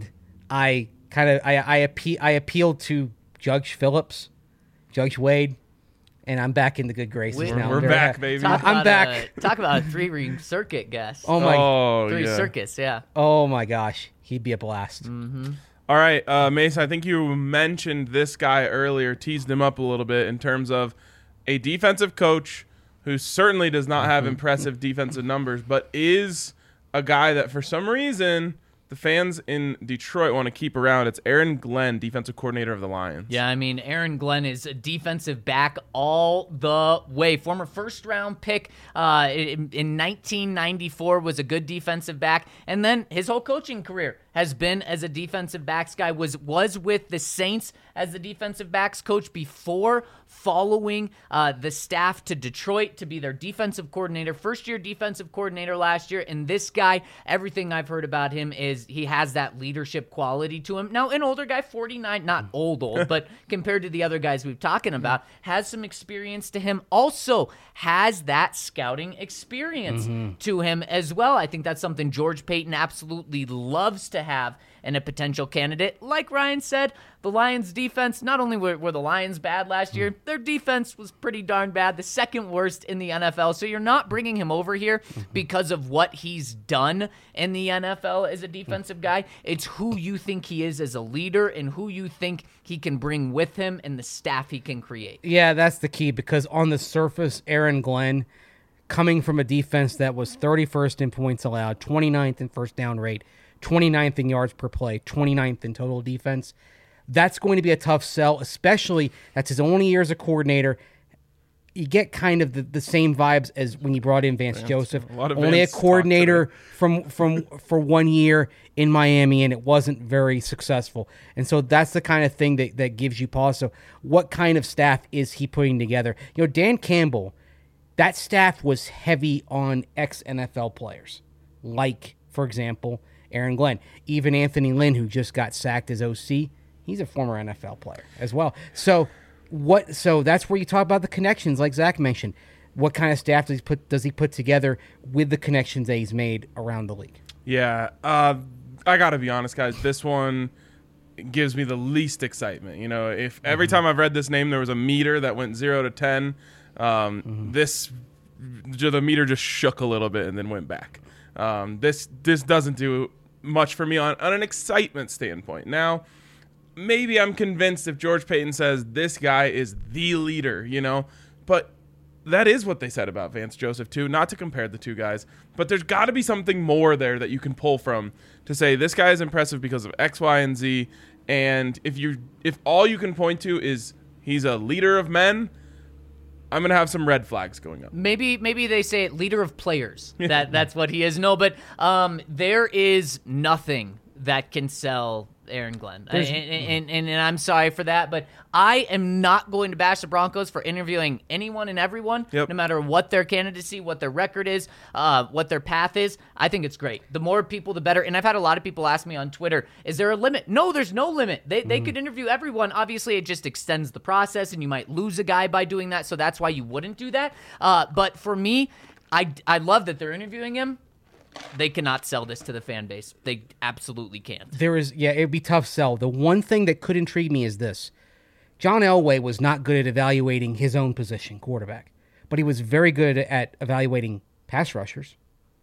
I kind of I I, appe- I appealed to Judge Phillips, Judge Wade, and I'm back in the good graces We're- now. we're Very back, happy. baby. Talk I'm about back. A, talk about a three-ring circuit guest. Oh my oh, Three yeah. circus, yeah. oh my gosh, he'd be a blast. All right, uh, Mace, I think you mentioned this guy earlier, teased him up a little bit in terms of a defensive coach who certainly does not have impressive defensive numbers, but is a guy that for some reason the fans in Detroit want to keep around. It's Aaron Glenn, defensive coordinator of the Lions. Yeah, I mean, Aaron Glenn is a defensive back all the way. Former first-round pick uh, in, in nineteen ninety-four, was a good defensive back. And then his whole coaching career has been as a defensive backs guy, was was with the Saints as the defensive backs coach before following uh, the staff to Detroit to be their defensive coordinator. First-year defensive coordinator last year. And this guy, everything I've heard about him is he has that leadership quality to him. Now, an older guy, forty-nine, not old, old, but compared to the other guys we've talking about, has some experience to him. Also has that scouting experience to him as well. I think that's something George Payton absolutely loves to have in a potential candidate. Like Ryan said, the Lions defense, not only were, were the Lions bad last year, their defense was pretty darn bad, the second worst in the N F L. So you're not bringing him over here because of what he's done in the N F L as a defensive guy. It's who you think he is as a leader and who you think he can bring with him and the staff he can create. Yeah, that's the key because on the surface, Aaron Glenn, coming from a defense that was thirty-first in points allowed, twenty-ninth in first down rate, twenty-ninth in yards per play, twenty-ninth in total defense, that's going to be a tough sell, especially that's his only year as a coordinator. You get kind of the, the same vibes as when you brought in Vance, Vance Joseph. A lot of only Vance a coordinator from from for one year in Miami, and it wasn't very successful. And so that's the kind of thing that, that gives you pause. So what kind of staff is he putting together? You know, Dan Campbell, that staff was heavy on ex-N F L players, like, for example, Aaron Glenn. Even Anthony Lynn, who just got sacked as O C, he's a former N F L player as well. So what? So that's where you talk about the connections, like Zach mentioned. What kind of staff does he put does he put together with the connections that he's made around the league? Yeah, uh, I got to be honest, guys. This one gives me the least excitement. You know, if every time I've read this name, there was a meter that went zero to ten, um, mm-hmm. this the meter just shook a little bit and then went back. Um, this this doesn't do much for me on, on an excitement standpoint. Now, maybe I'm convinced if George Payton says this guy is the leader, you know, but that is what they said about Vance Joseph too, not to compare the two guys, but there's got to be something more there that you can pull from to say this guy is impressive because of X, Y, and Z. And if you if all you can point to is he's a leader of men, I'm gonna have some red flags going up. Maybe maybe they say leader of players. That that's what he is. No, but um, there is nothing that can sell Aaron Glenn, and, and, and, and I'm sorry for that, but I am not going to bash the Broncos for interviewing anyone and everyone, yep. no matter what their candidacy, what their record is, uh, what their path is. I think it's great. The more people, the better. And I've had a lot of people ask me on Twitter, is there a limit? No, there's no limit. They they mm. could interview everyone. Obviously, it just extends the process, and you might lose a guy by doing that, so that's why you wouldn't do that. Uh, but for me, I, I love that they're interviewing him. They cannot sell this to the fan base. They absolutely can't. There is, yeah, it'd be tough sell. The one thing that could intrigue me is this. John Elway was not good at evaluating his own position, quarterback, but he was very good at evaluating pass rushers.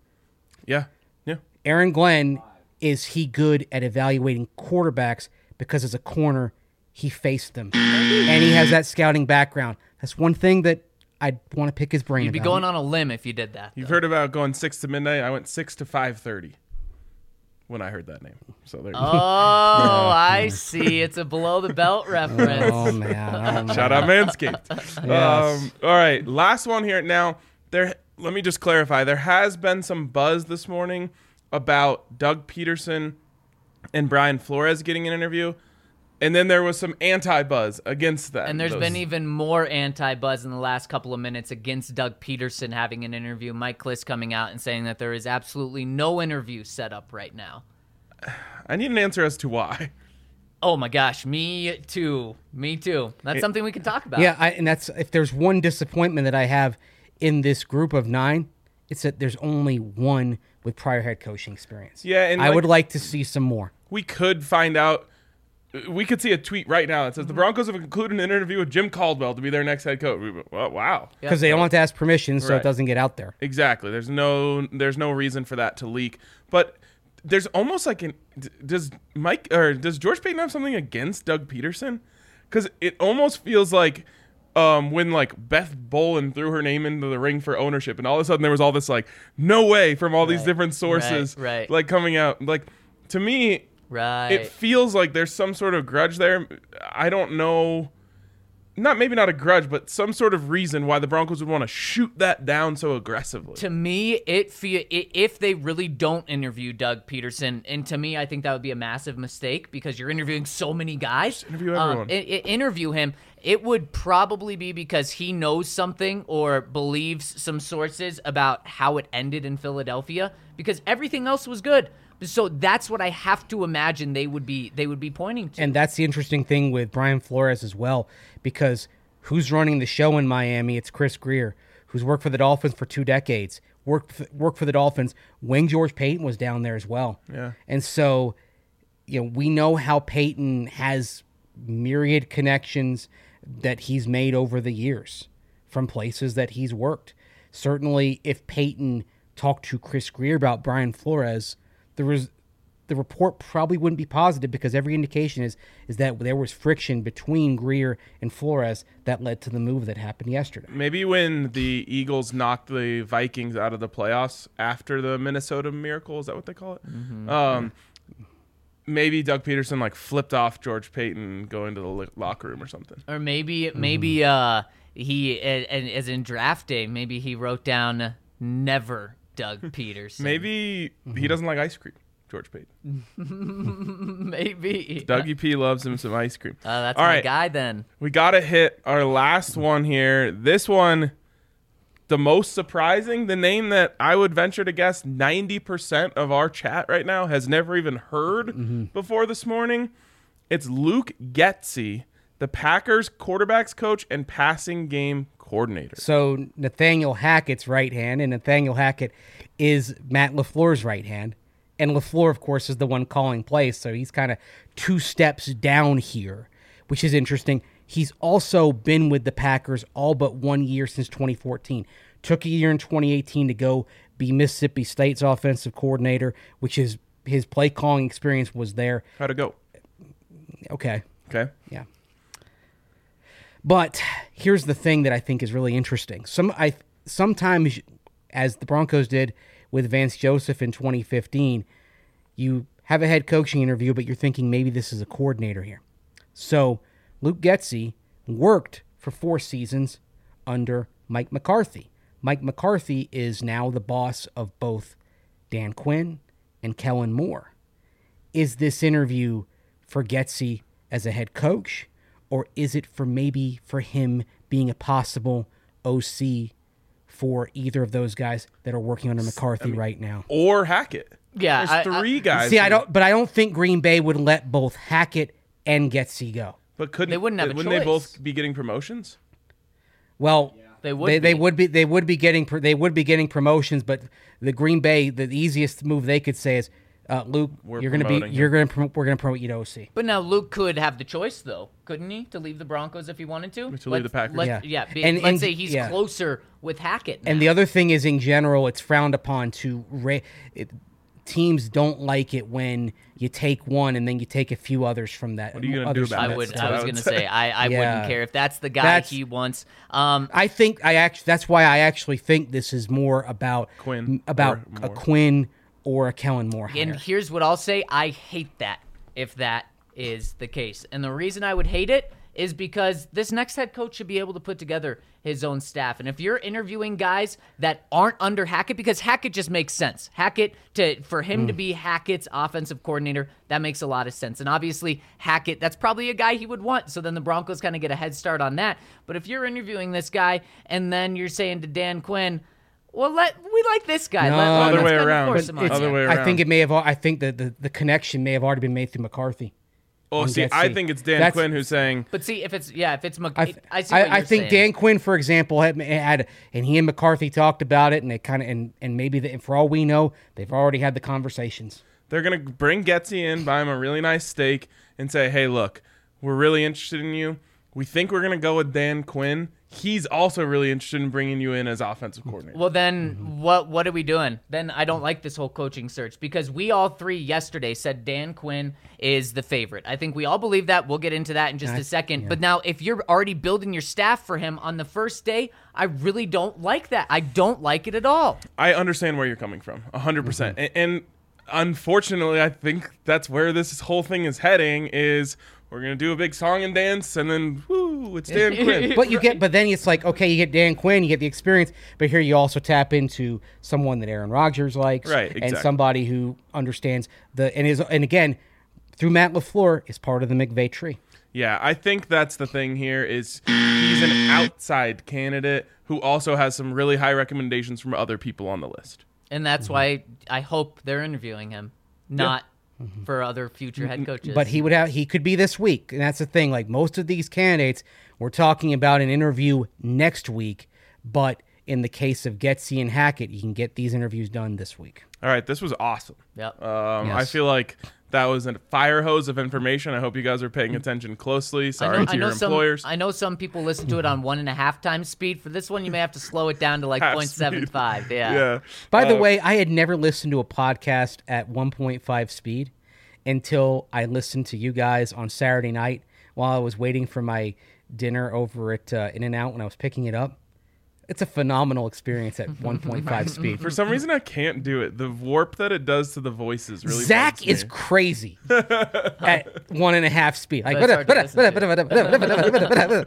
Yeah, yeah. Aaron Glenn, is he good at evaluating quarterbacks because as a corner, he faced them. And he has that scouting background. That's one thing that I'd want to pick his brain You'd be about. going on a limb if you did that. You've though. heard about going six to midnight. I went six to five thirty. when I heard that name. So there you Oh, go. I see. It's a below the belt reference. Oh man! Oh, man. Shout out Manscaped. Yes. Um, all right, last one here. Now, there. Let me just clarify. There has been some buzz this morning about Doug Peterson and Brian Flores getting an interview, and then there was some anti-buzz against that. And there's Those- been even more anti-buzz in the last couple of minutes against Doug Peterson having an interview. Mike Klis coming out and saying that there is absolutely no interview set up right now. I need an answer as to why. Oh my gosh, me too. Me too. That's something we can talk about. Yeah, I, and that's if there's one disappointment that I have in this group of nine, it's that there's only one with prior head coaching experience. Yeah, and I like- would like to see some more. We could find out. We could see a tweet right now that says the Broncos have concluded an interview with Jim Caldwell to be their next head coach. We- Well, wow. Because they don't want to ask permission, so Right. it doesn't get out there. Exactly. There's no there's no reason for that to leak. But there's almost like an d- does Mike or does George Payton have something against Doug Peterson? Because it almost feels like um, when like Beth Bolin threw her name into the ring for ownership, and all of a sudden there was all this like no way from all these Right. different sources Right, right. like coming out. Like to me, Right. it feels like there's some sort of grudge there. I don't know. Not maybe not a grudge, but some sort of reason why the Broncos would want to shoot that down so aggressively. To me, it feel i- if they really don't interview Doug Peterson, and to me, I think that would be a massive mistake because you're interviewing so many guys. interview Um, everyone. i- i- interview him. It would probably be because he knows something or believes some sources about how it ended in Philadelphia. Because everything else was good. So that's what I have to imagine they would be they would be pointing to. And that's the interesting thing with Brian Flores as well, because who's running the show in Miami? It's Chris Greer, who's worked for the Dolphins for two decades, worked f- worked for the Dolphins when George Payton was down there as well. Yeah. And so, you know, we know how Payton has myriad connections that he's made over the years from places that he's worked. Certainly, if Payton talked to Chris Greer about Brian Flores, there was the report probably wouldn't be positive because every indication is is that there was friction between Greer and Flores that led to the move that happened yesterday. Maybe when the Eagles knocked the Vikings out of the playoffs after the Minnesota Miracle, is that what they call it? Mm-hmm. Um, maybe Doug Peterson like flipped off George Payton going to the lo- locker room or something. Or maybe maybe uh he and, and as in draft day, maybe he wrote down never Doug Peterson. Maybe Mm-hmm. he doesn't like ice cream, George Payton. maybe. Dougie P loves him some ice cream. Uh, that's All my right. guy then. We got to hit our last one here. This one, the most surprising, the name that I would venture to guess ninety percent of our chat right now has never even heard before this morning. It's Luke Getsy, the Packers quarterbacks coach and passing game coordinator. So Nathaniel Hackett's right hand, and Nathaniel Hackett is Matt LaFleur's right hand. And LaFleur, of course, is the one calling plays, so he's kind of two steps down here, which is interesting. He's also been with the Packers all but one year since twenty fourteen. Took a year in twenty eighteen to go be Mississippi State's offensive coordinator, which is his play calling experience was there. How'd it go? Okay. Okay. Yeah. But here's the thing that I think is really interesting. Some I sometimes, as the Broncos did with Vance Joseph in twenty fifteen, you have a head coaching interview, but you're thinking maybe this is a coordinator here. So Luke Getsy worked for four seasons under Mike McCarthy. Mike McCarthy is now the boss of both Dan Quinn and Kellen Moore. Is this interview for Getsy as a head coach, or is it for maybe for him being a possible O C for either of those guys that are working under McCarthy right now? Or Hackett. Yeah, There's I- I- three guys. See, I who- don't, but I don't think Green Bay would let both Hackett and Getsy go. But couldn't They wouldn't have a Wouldn't they choice. both be getting promotions? Well, They would They, they be. would be. They would be getting. pr- They would be getting promotions. But the Green Bay, the easiest move they could say is, uh, Luke, We're you're going to be. promoting You're going to. We're going to promote you to O C. But now Luke could have the choice, though, couldn't he, to leave the Broncos if he wanted to? To leave the Packers. Let, Yeah. yeah. be- And- let's and- say he's yeah. closer with Hackett. And now. the other thing is, in general, it's frowned upon to. Ra- it, teams don't like it when you take one and then you take a few others from that. What are you gonna others do from about I it? that would. That's stuff. I what was I would gonna say. say. I, I Yeah. wouldn't care if that's the guy That's- he wants. Um, I think I actually. That's why I actually think this is more about Quinn about or a Moore. Quinn or a Kellen Moore hire. And here's what I'll say. I hate that if that is the case. And the reason I would hate it is because this next head coach should be able to put together his own staff. And if you're interviewing guys that aren't under Hackett, because Hackett just makes sense. Hackett, to for him Mm. to be Hackett's offensive coordinator, that makes a lot of sense. And obviously, Hackett, that's probably a guy he would want. So then the Broncos kind of get a head start on that. But if you're interviewing this guy and then you're saying to Dan Quinn, well, let we like this guy. No, let, let, other let's way kinda around. force But him on it's- you. Other way I think around. it may have. I think that the, the connection may have already been made through McCarthy. Oh, on see, Get I C. think it's Dan That's- Quinn who's saying, But see, if it's yeah, if it's Mc, I, I, th- see. What I, I you're think saying. Dan Quinn, for example, had, had and he and McCarthy talked about it, and it kind of and and maybe the, for all we know, they've already had the conversations. they're going to bring Getsy in, buy him a really nice steak, and say, hey, look, we're really interested in you. We think we're going to go with Dan Quinn. He's also really interested in bringing you in as offensive coordinator. Well, then what what are we doing? Then I don't like this whole coaching search because we all three yesterday said Dan Quinn is the favorite. I think we all believe that. We'll get into that in just a second. But now if you're already building your staff for him on the first day, I really don't like that. I don't like it at all. I understand where you're coming from, one hundred percent. And, and unfortunately, I think that's where this whole thing is heading is we're going to do a big song and dance, and then, woo, it's Dan Quinn. But you get, but then it's like, okay, you get Dan Quinn, you get the experience, but here you also tap into someone that Aaron Rodgers likes, Right, and exactly. somebody who understands the and is and again through Matt LaFleur is part of the McVay tree. Yeah, I think that's the thing here is he's an outside candidate who also has some really high recommendations from other people on the list. And that's why I hope they're interviewing him, not for other future head coaches. But he would have he could be this week, and that's the thing. Like most of these candidates, we're talking about an interview next week. But in the case of Getsy and Hackett, you can get these interviews done this week. All right, this was awesome. Yep. Um, I Yes. feel like that was a fire hose of information. I hope you guys are paying attention closely. Sorry I know, to I know your some, employers. I know some people listen to it on one and a half times speed. For this one, you may have to slow it down to like Half point seven five. speed. Yeah. Yeah. By the Uh, way, I had never listened to a podcast at one point five speed until I listened to you guys on Saturday night while I was waiting for my dinner over at uh, In-N-Out when I was picking it up. It's a phenomenal experience at one point five speed. For some reason, I can't do it. The warp that it does to the voices really. Zach bugs me. is crazy at one and a half speed. Like, But it's hard to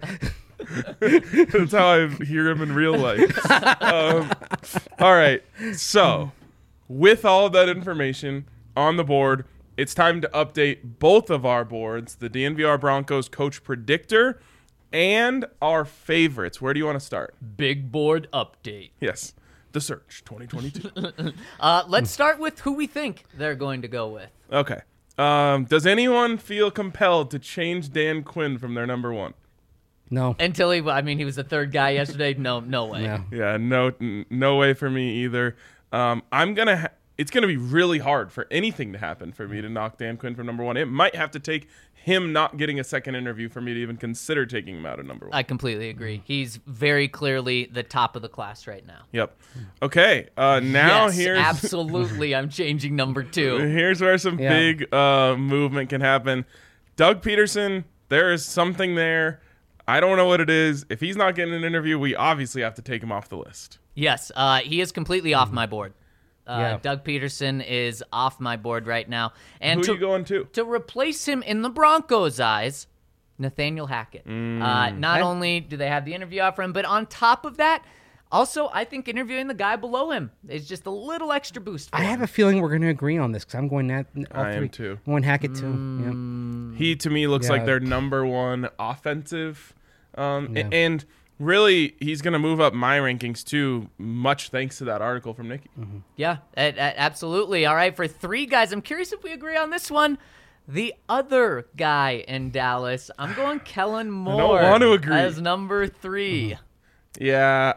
That's how I hear him in real life. um, all right. So, with all of that information on the board, it's time to update both of our boards, the D N V R Broncos coach predictor and our favorites. Where do you want to start? Big board update. Yes. The Search twenty twenty-two. Uh, let's start with who we think they're going to go with. Okay. Um, does anyone feel compelled to change Dan Quinn from their number one? No. Until he, I mean, he was the third guy yesterday. No, no way. No. Yeah, no, n- no way for me either. Um, I'm gonna. Ha- it's gonna be really hard for anything to happen for me to knock Dan Quinn from number one. It might have to take him not getting a second interview for me to even consider taking him out of number one. I completely agree. He's very clearly the top of the class right now. Yep. Okay. Uh, now yes, here's absolutely. I'm changing number two. here's where some Yeah. big uh, movement can happen. Doug Peterson, there is something there. I don't know what it is. If he's not getting an interview, we obviously have to take him off the list. Yes, uh, he is completely off my board. Uh, Yeah. Doug Peterson is off my board right now. And Who to, are you going to? to replace him in the Broncos' eyes, Nathaniel Hackett. Mm. Uh, not I- only do they have the interview offer him, but on top of that, also, I think interviewing the guy below him is just a little extra boost for I him. have a feeling we're going to agree on this because I'm going that. All I am three. too. I'm going Hackett too. He to me looks Yeah. like their number one offensive, um, a- Yeah. and really he's going to move up my rankings too. Much thanks to that article from Nikki. Yeah, a- a- absolutely. All right, for three guys, I'm curious if we agree on this one. The other guy in Dallas, I'm going Kellen Moore want to agree. as number three. Yeah,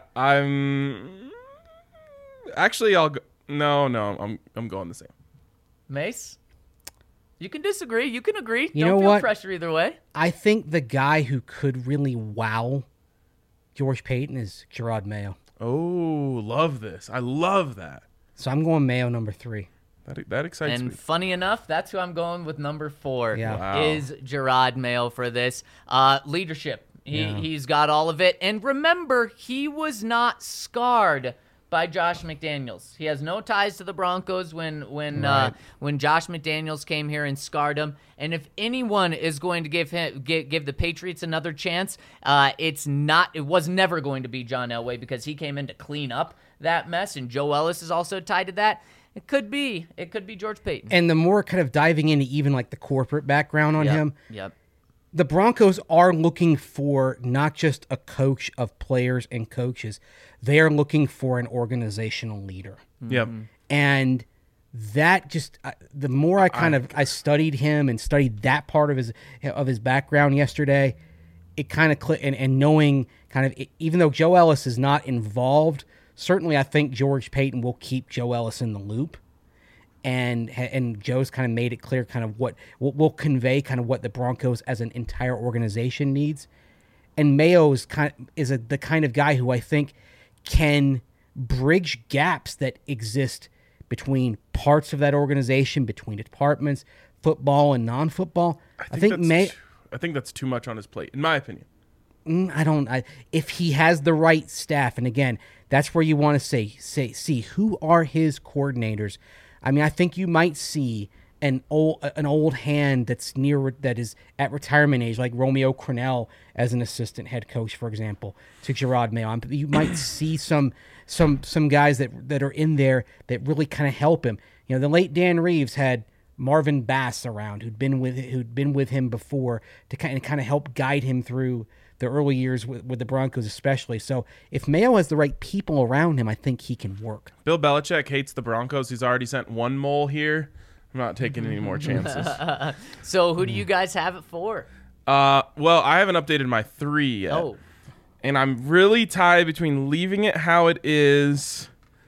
I'm actually I'll go. No, no, I'm I'm going the same. Mace, you can disagree. You can agree. You Don't know feel what? pressure either way. I think the guy who could really wow George Payton is Gerard Mayo. Oh, love this. I love that. So I'm going Mayo number three. That that excites And me. funny enough, that's who I'm going with number four. Yeah. Wow. Is Gerard Mayo for this uh, leadership. He Yeah. he's got all of it. And remember, he was not scarred by Josh McDaniels. He has no ties to the Broncos when when Right. uh, when Josh McDaniels came here and scarred him. And if anyone is going to give him give, give the Patriots another chance, uh, it's not. It was never going to be John Elway because he came in to clean up that mess, and Joe Ellis is also tied to that. It could be. It could be George Payton. And the more kind of diving into even like the corporate background on yep. him, Yep. the Broncos are looking for not just a coach of players and coaches. They are looking for an organizational leader. Yep. And that just uh, the more I kind of I studied him and studied that part of his of his background yesterday, it kind of clicked. And, and knowing kind of even though Joe Ellis is not involved, certainly I think George Payton will keep Joe Ellis in the loop. And and Joe's kind of made it clear kind of what will will convey kind of what the Broncos as an entire organization needs. And Mayo is kind of, is a, the kind of guy who I think can bridge gaps that exist between parts of that organization, between departments, football and non-football. I think, I think that's May. too, I think that's too much on his plate, in my opinion. I don't. I, if he has the right staff, and again, that's where you want to say say see who are his coordinators. I mean, I think you might see an old an old hand that's near that is at retirement age, like Romeo Crennel as an assistant head coach, for example, to Gerard Mayo. You might see some some some guys that that are in there that really kind of help him. You know, the late Dan Reeves had Marvin Bass around, who'd been with who'd been with him before to kind of kind of help guide him through the early years with, with the Broncos, especially. So if Mayo has the right people around him, I think he can work. Bill Belichick hates the Broncos. He's already sent one mole here. I'm not taking any more chances. So who do you guys have it for? Uh, well, I haven't updated my three yet. Oh, And I'm really tied between leaving it how it is.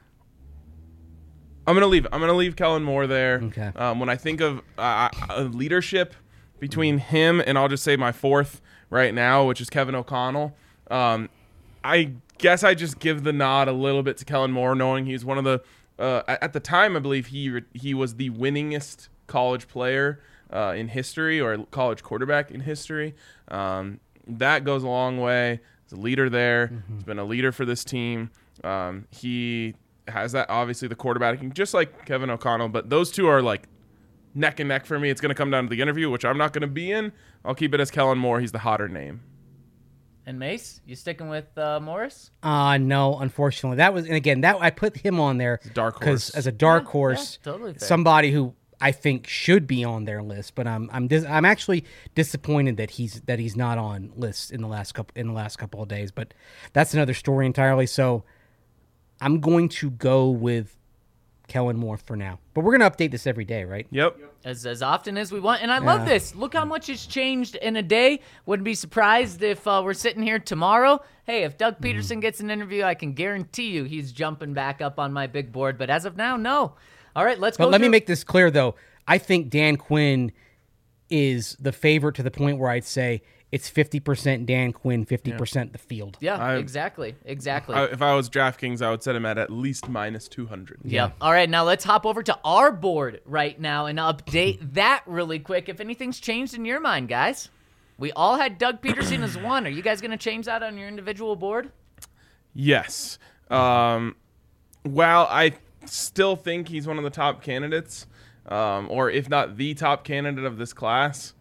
I'm going to leave it. I'm going to leave Kellen Moore there. Okay. Um, when I think of uh, uh, leadership between him and I'll just say my fourth right now, which is Kevin O'Connell, um, I guess I just give the nod a little bit to Kellen Moore, knowing he's one of the uh, at the time I believe he he was the winningest college player uh, in history, or college quarterback in history. Um, that goes a long way. He's a leader there. Mm-hmm. He's been a leader for this team. Um, he has that, obviously, the quarterbacking, just like Kevin O'Connell, but those two are like neck and neck for me. It's going to come down to the interview, which I'm not going to be in. I'll keep it as Kellen Moore. He's the hotter name. and Mace, you sticking with uh, Morris? Uh no, unfortunately. That was, and again, that I put him on there Dark because horse. as a dark Yeah, horse, yeah, totally fair. somebody who I think should be on their list, but I'm I'm dis- I'm actually disappointed that he's that he's not on lists in the last couple in the last couple of days. But that's another story entirely. So I'm going to go with Kellen Moore for now. But we're going to update this every day, right? Yep. As as often as we want. And I love Yeah. this. Look how much has changed in a day. Wouldn't be surprised if uh, we're sitting here tomorrow. Hey, if Doug Peterson gets an interview, I can guarantee you he's jumping back up on my big board. But as of now, no. All right, let's But go. let me through- make this clear, though. I think Dan Quinn is the favorite to the point where I'd say it's fifty percent Dan Quinn, fifty percent the field. Yeah, I- exactly. Exactly. I, if I was DraftKings, I would set him at at least minus two hundred. Yep. All right, now let's hop over to our board right now and update that really quick. If anything's changed in your mind, guys. We all had Doug Peterson as one. Are you guys going to change that on your individual board? Yes. Um, while I still think he's one of the top candidates, um, or if not the top candidate of this class,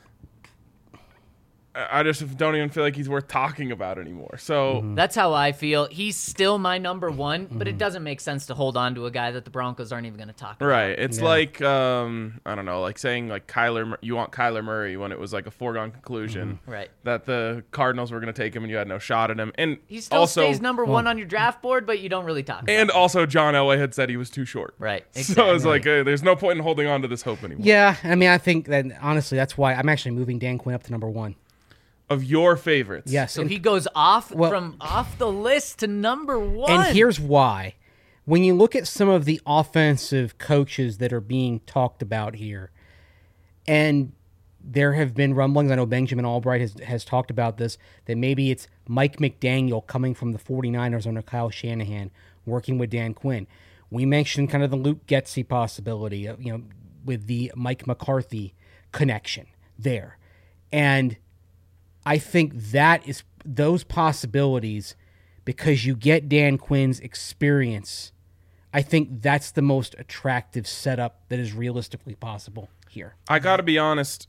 I I just don't even feel like he's worth talking about anymore. So That's how I feel. He's still my number one, but it doesn't make sense to hold on to a guy that the Broncos aren't even going to talk about. right, it's Yeah. like um, I don't know, like saying like Kyler, Mur- you want Kyler Murray when it was like a foregone conclusion Right. that the Cardinals were going to take him and you had no shot at him, and He still also stays number one on your draft board, but you don't really talk about and him. also John Elway had said he was too short. Right. So it's exactly. like uh, there's no point in holding on to this hope anymore. Yeah, I mean, I think that honestly, that's why I'm actually moving Dan Quinn up to number one. Of your favorites, Yes, So and, he goes off Well- from off the list to number one. and here's why. When you look at some of the offensive coaches that are being talked about here, and there have been rumblings, I know Benjamin Albright has, has talked about this, that maybe it's Mike McDaniel coming from the 49ers under Kyle Shanahan, working with Dan Quinn. We mentioned kind of the Luke Getsy possibility, of, you know, with the Mike McCarthy connection there. And I think that is those possibilities because you get Dan Quinn's experience. I think that's the most attractive setup that is realistically possible here. I got to be honest.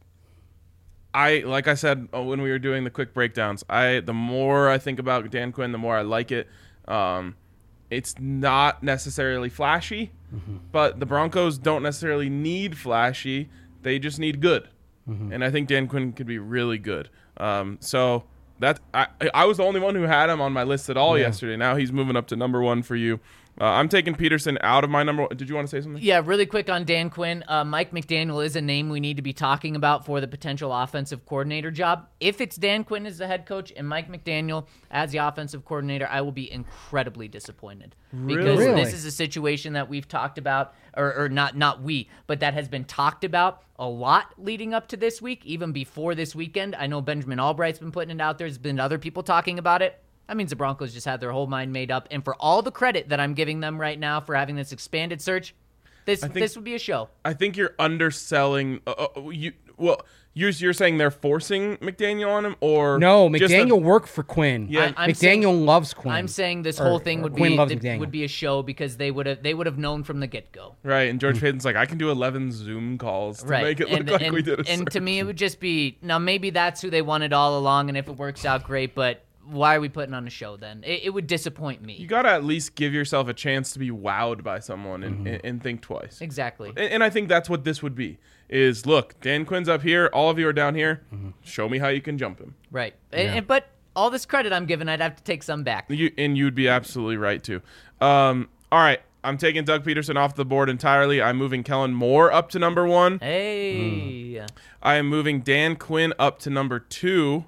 I like I said uh, when we were doing the quick breakdowns. I the more I think about Dan Quinn, the more I like it. Um, it's not necessarily flashy, mm-hmm. but the Broncos don't necessarily need flashy. They just need good, mm-hmm. and I think Dan Quinn could be really good. Um, so that I I was the only one who had him on my list at all yeah. yesterday. Now he's moving up to number one for you. Uh, I'm taking Peterson out of my number one. Did you want to say something? Yeah, really quick on Dan Quinn. Uh, Mike McDaniel is a name we need to be talking about for the potential offensive coordinator job. If it's Dan Quinn as the head coach and Mike McDaniel as the offensive coordinator, I will be incredibly disappointed. Because Really? this is a situation that we've talked about, or, or not not we, but that has been talked about a lot leading up to this week, even before this weekend. I know Benjamin Albright's been putting it out there. There's been other people talking about it. That means the Broncos just had their whole mind made up. And for all the credit that I'm giving them right now for having this expanded search, this think, this would be a show. I think you're underselling. Uh, uh, you well, you're you're saying they're forcing McDaniel on him, or No, just McDaniel a- worked for Quinn. Yeah. I- I'm McDaniel saying- loves Quinn. I'm saying this Or- whole thing or would Quinn be loves it McDaniel. would be a show because they would have they would have known from the get go. right, and Mm. George Payton's like, I can do eleven Zoom calls to Right. make it look and, like and, we did a and to search. me it would just be now maybe that's who they wanted all along, and if it works out great, but why are we putting on a show then? It, it would disappoint me. You gotta at least give yourself a chance to be wowed by someone and, Mm-hmm. and, and think twice. Exactly. And, and I think that's what this would be. Is look, Dan Quinn's up here, all of you are down here. Mm-hmm. Show me how you can jump him. Right. And, and- but all this credit I'm giving, I'd have to take some back. You, and you'd be absolutely right too. Um, all right, I'm taking Doug Peterson off the board entirely. I'm moving Kellen Moore up to number one. Hey. I am moving Dan Quinn up to number two.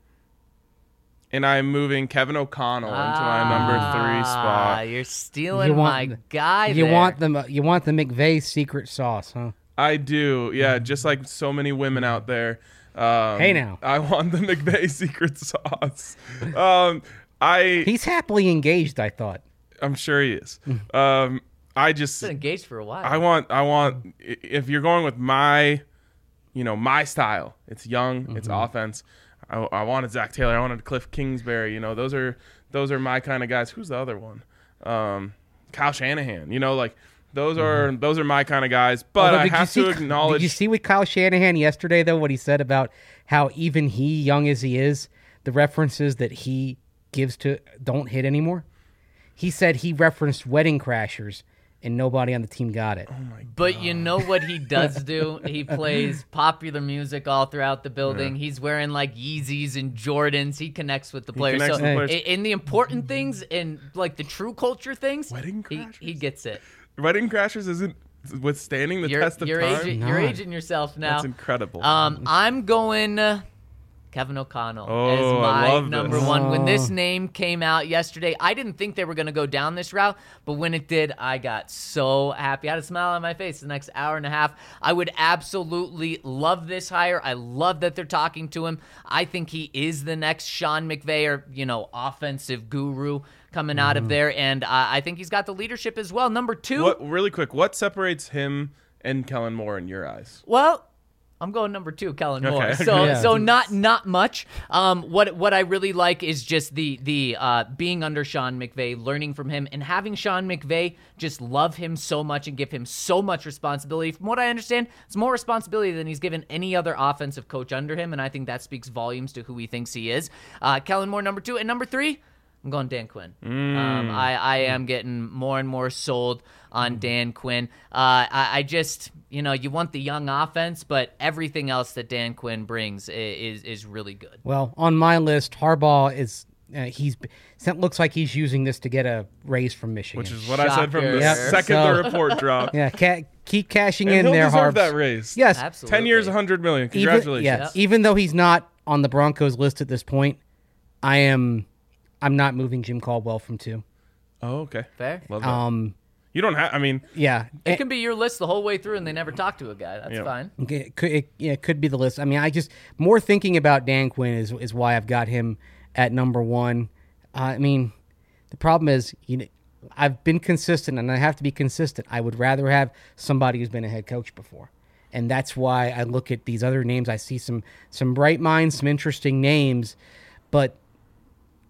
And I'm moving Kevin O'Connell into my number three Ah, spot. you're stealing You my want- guy You there. want the you want the McVay secret sauce, huh? I do, yeah, just like so many women out there. Um, Hey, now. I want the McVay secret sauce. Um, I, He's happily engaged, I thought. I'm sure he is. Um, I just, Been engaged for a while. I want, I want. i- If you're going with my, you know, my style, it's young, it's offense. I, I wanted Zach Taylor. I wanted Cliff Kingsbury. You know, those are those are my kind of guys. Who's the other one? Um, Kyle Shanahan. You know, like those are those are my kind of guys. But Although, I did you have see- to acknowledge. Did you see with Kyle Shanahan yesterday, though, what he said about how even he, young as he is, the references that he gives to don't hit anymore? He said he referenced Wedding Crashers, and nobody on the team got it. But you know what he does do? He plays popular music all throughout the building. He's wearing like Yeezys and Jordans. He connects with the players. connects So with the players. i- in the important things and like the true culture things, Wedding he, Crashers? he gets it. Wedding Crashers isn't withstanding the You're, test of you're, time. aging, No. you're aging yourself now. That's incredible. Um, I'm going uh, Kevin O'Connell Oh, as I my love number this. one. When this Oh. name came out yesterday, I didn't think they were going to go down this route, but when it did, I got so happy. I had a smile on my face the next hour and a half. I would absolutely love this hire. I love that they're talking to him. I think he is the next Sean McVay or, you know, offensive guru coming out of there, and uh, I think he's got the leadership as well. Number two. what really quick? What separates him and Kellen Moore in your eyes? Well, I'm going number two, Kellen Moore. Okay. So, Yeah. so not not much. Um, what what I really like is just the the uh, being under Sean McVay, learning from him, and having Sean McVay just love him so much and give him so much responsibility. From what I understand, it's more responsibility than he's given any other offensive coach under him, and I think that speaks volumes to who he thinks he is. Uh, Kellen Moore, number two, and number three. I'm going Dan Quinn. Um, I, I am getting more and more sold on Dan Quinn. Uh, I, I just, you know, you want the young offense, but everything else that Dan Quinn brings i- is is really good. Well, on my list, Harbaugh is uh, he's it looks like he's using this to get a raise from Michigan. Which is what I said from the Shocker. Yep. second So- the report dropped. yeah, ca- keep cashing And in he'll there, deserve Harbs. that raise. Yes, Absolutely. Ten years, a hundred million. even, Congratulations. yes, even though he's not on the Broncos list at this point, I am. I'm not moving Jim Caldwell from two. Oh, okay. Fair. Love that. Um, you don't have. I mean, yeah, It can be your list the whole way through, and they never talk to a guy. That's Yeah. fine. It could, it, yeah, it could be the list. I mean, I just more thinking about Dan Quinn is is why I've got him at number one. Uh, I mean, the problem is, you know, I've been consistent, and I have to be consistent. I would rather have somebody who's been a head coach before, and that's why I look at these other names. I see some some bright minds, some interesting names, but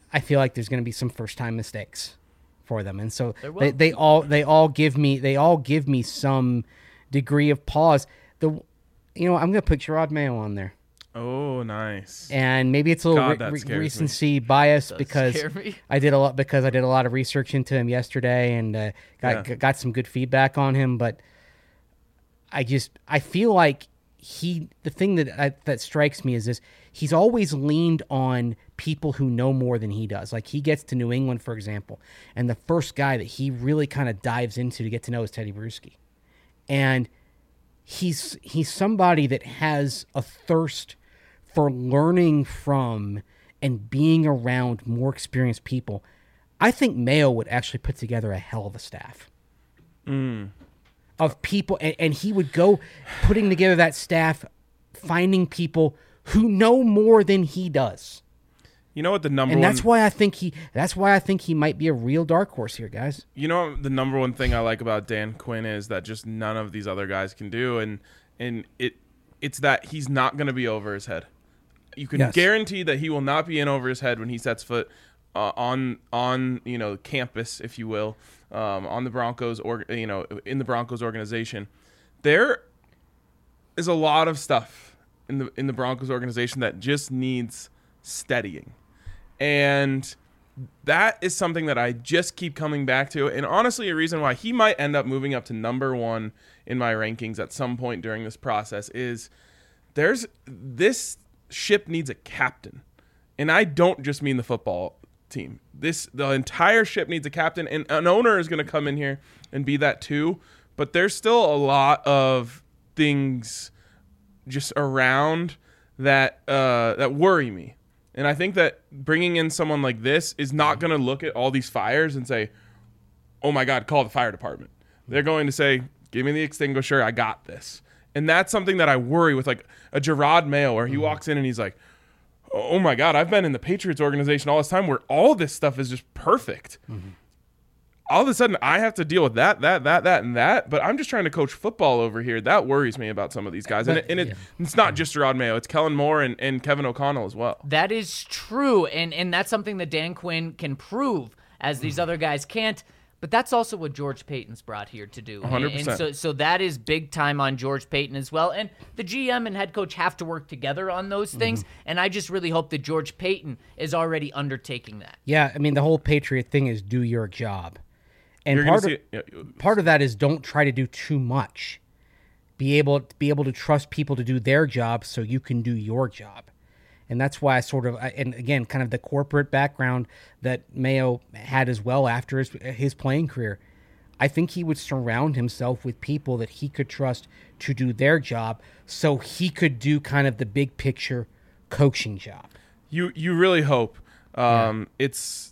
I feel like there's going to be some first time mistakes for them, and so There will. they, they all they all give me they all give me some degree of pause. The you know I'm going to put Gerard Mayo on there, Oh, nice. and maybe it's a little God, re- that re- scares me. recency bias Does because scare me. I did a lot because I did a lot of research into him yesterday and uh, got Yeah. got some good feedback on him, but I just I feel like he the thing that I, that strikes me is this: he's always leaned on people who know more than he does. Like he gets to New England, for example, and the first guy that he really kind of dives into to get to know is Teddy Bruschi, and he's he's somebody that has a thirst for learning from and being around more experienced people. I think Mayo would actually put together a hell of a staff of people, and, and he would go putting together that staff, finding people who know more than he does. You know what the number And one that's why I think he that's why I think he might be a real dark horse here, guys. You know the number one thing I like about Dan Quinn is that just none of these other guys can do, and and it it's that he's not going to be over his head. You can Yes. guarantee that he will not be in over his head when he sets foot uh, on on you know campus, if you will, um, on the Broncos or you know in the Broncos organization. There is a lot of stuff in the in the Broncos organization that just needs steadying. And that is something that I just keep coming back to. And honestly, a reason why he might end up moving up to number one in my rankings at some point during this process is there's this ship needs a captain. And I don't just mean the football team. This the entire ship needs a captain, and an owner is going to come in here and be that too. But there's still a lot of things just around that uh, that worry me. And I think that bringing in someone like this is not going to look at all these fires and say, oh my God, call the fire department. They're going to say, give me the extinguisher. I got this. And that's something that I worry with, like a Gerard Mayo, where he walks in and he's like, oh my God, I've been in the Patriots organization all this time where all this stuff is just perfect. Mm-hmm. All of a sudden, I have to deal with that, that, that, that, and that. But I'm just trying to coach football over here. That worries me about some of these guys. And, it, and it, it's not just Gerard Mayo. It's Kellen Moore and, and Kevin O'Connell as well. That is true, and and that's something that Dan Quinn can prove, as these other guys can't. But that's also what George Payton's brought here to do. one hundred percent. And so, so that is big time on George Payton as well. And the G M and head coach have to work together on those things. Mm-hmm. And I just really hope that George Payton is already undertaking that. Yeah, I mean, the whole Patriot thing is do your job. And You're part gonna of, see it- yeah, part of that is don't try to do too much. Be able be able to trust people to do their job so you can do your job. And that's why I sort of, and again, kind of the corporate background that Mayo had as well after his, his playing career. I think he would surround himself with people that he could trust to do their job so he could do kind of the big picture coaching job. You you really hope. Um, yeah. It's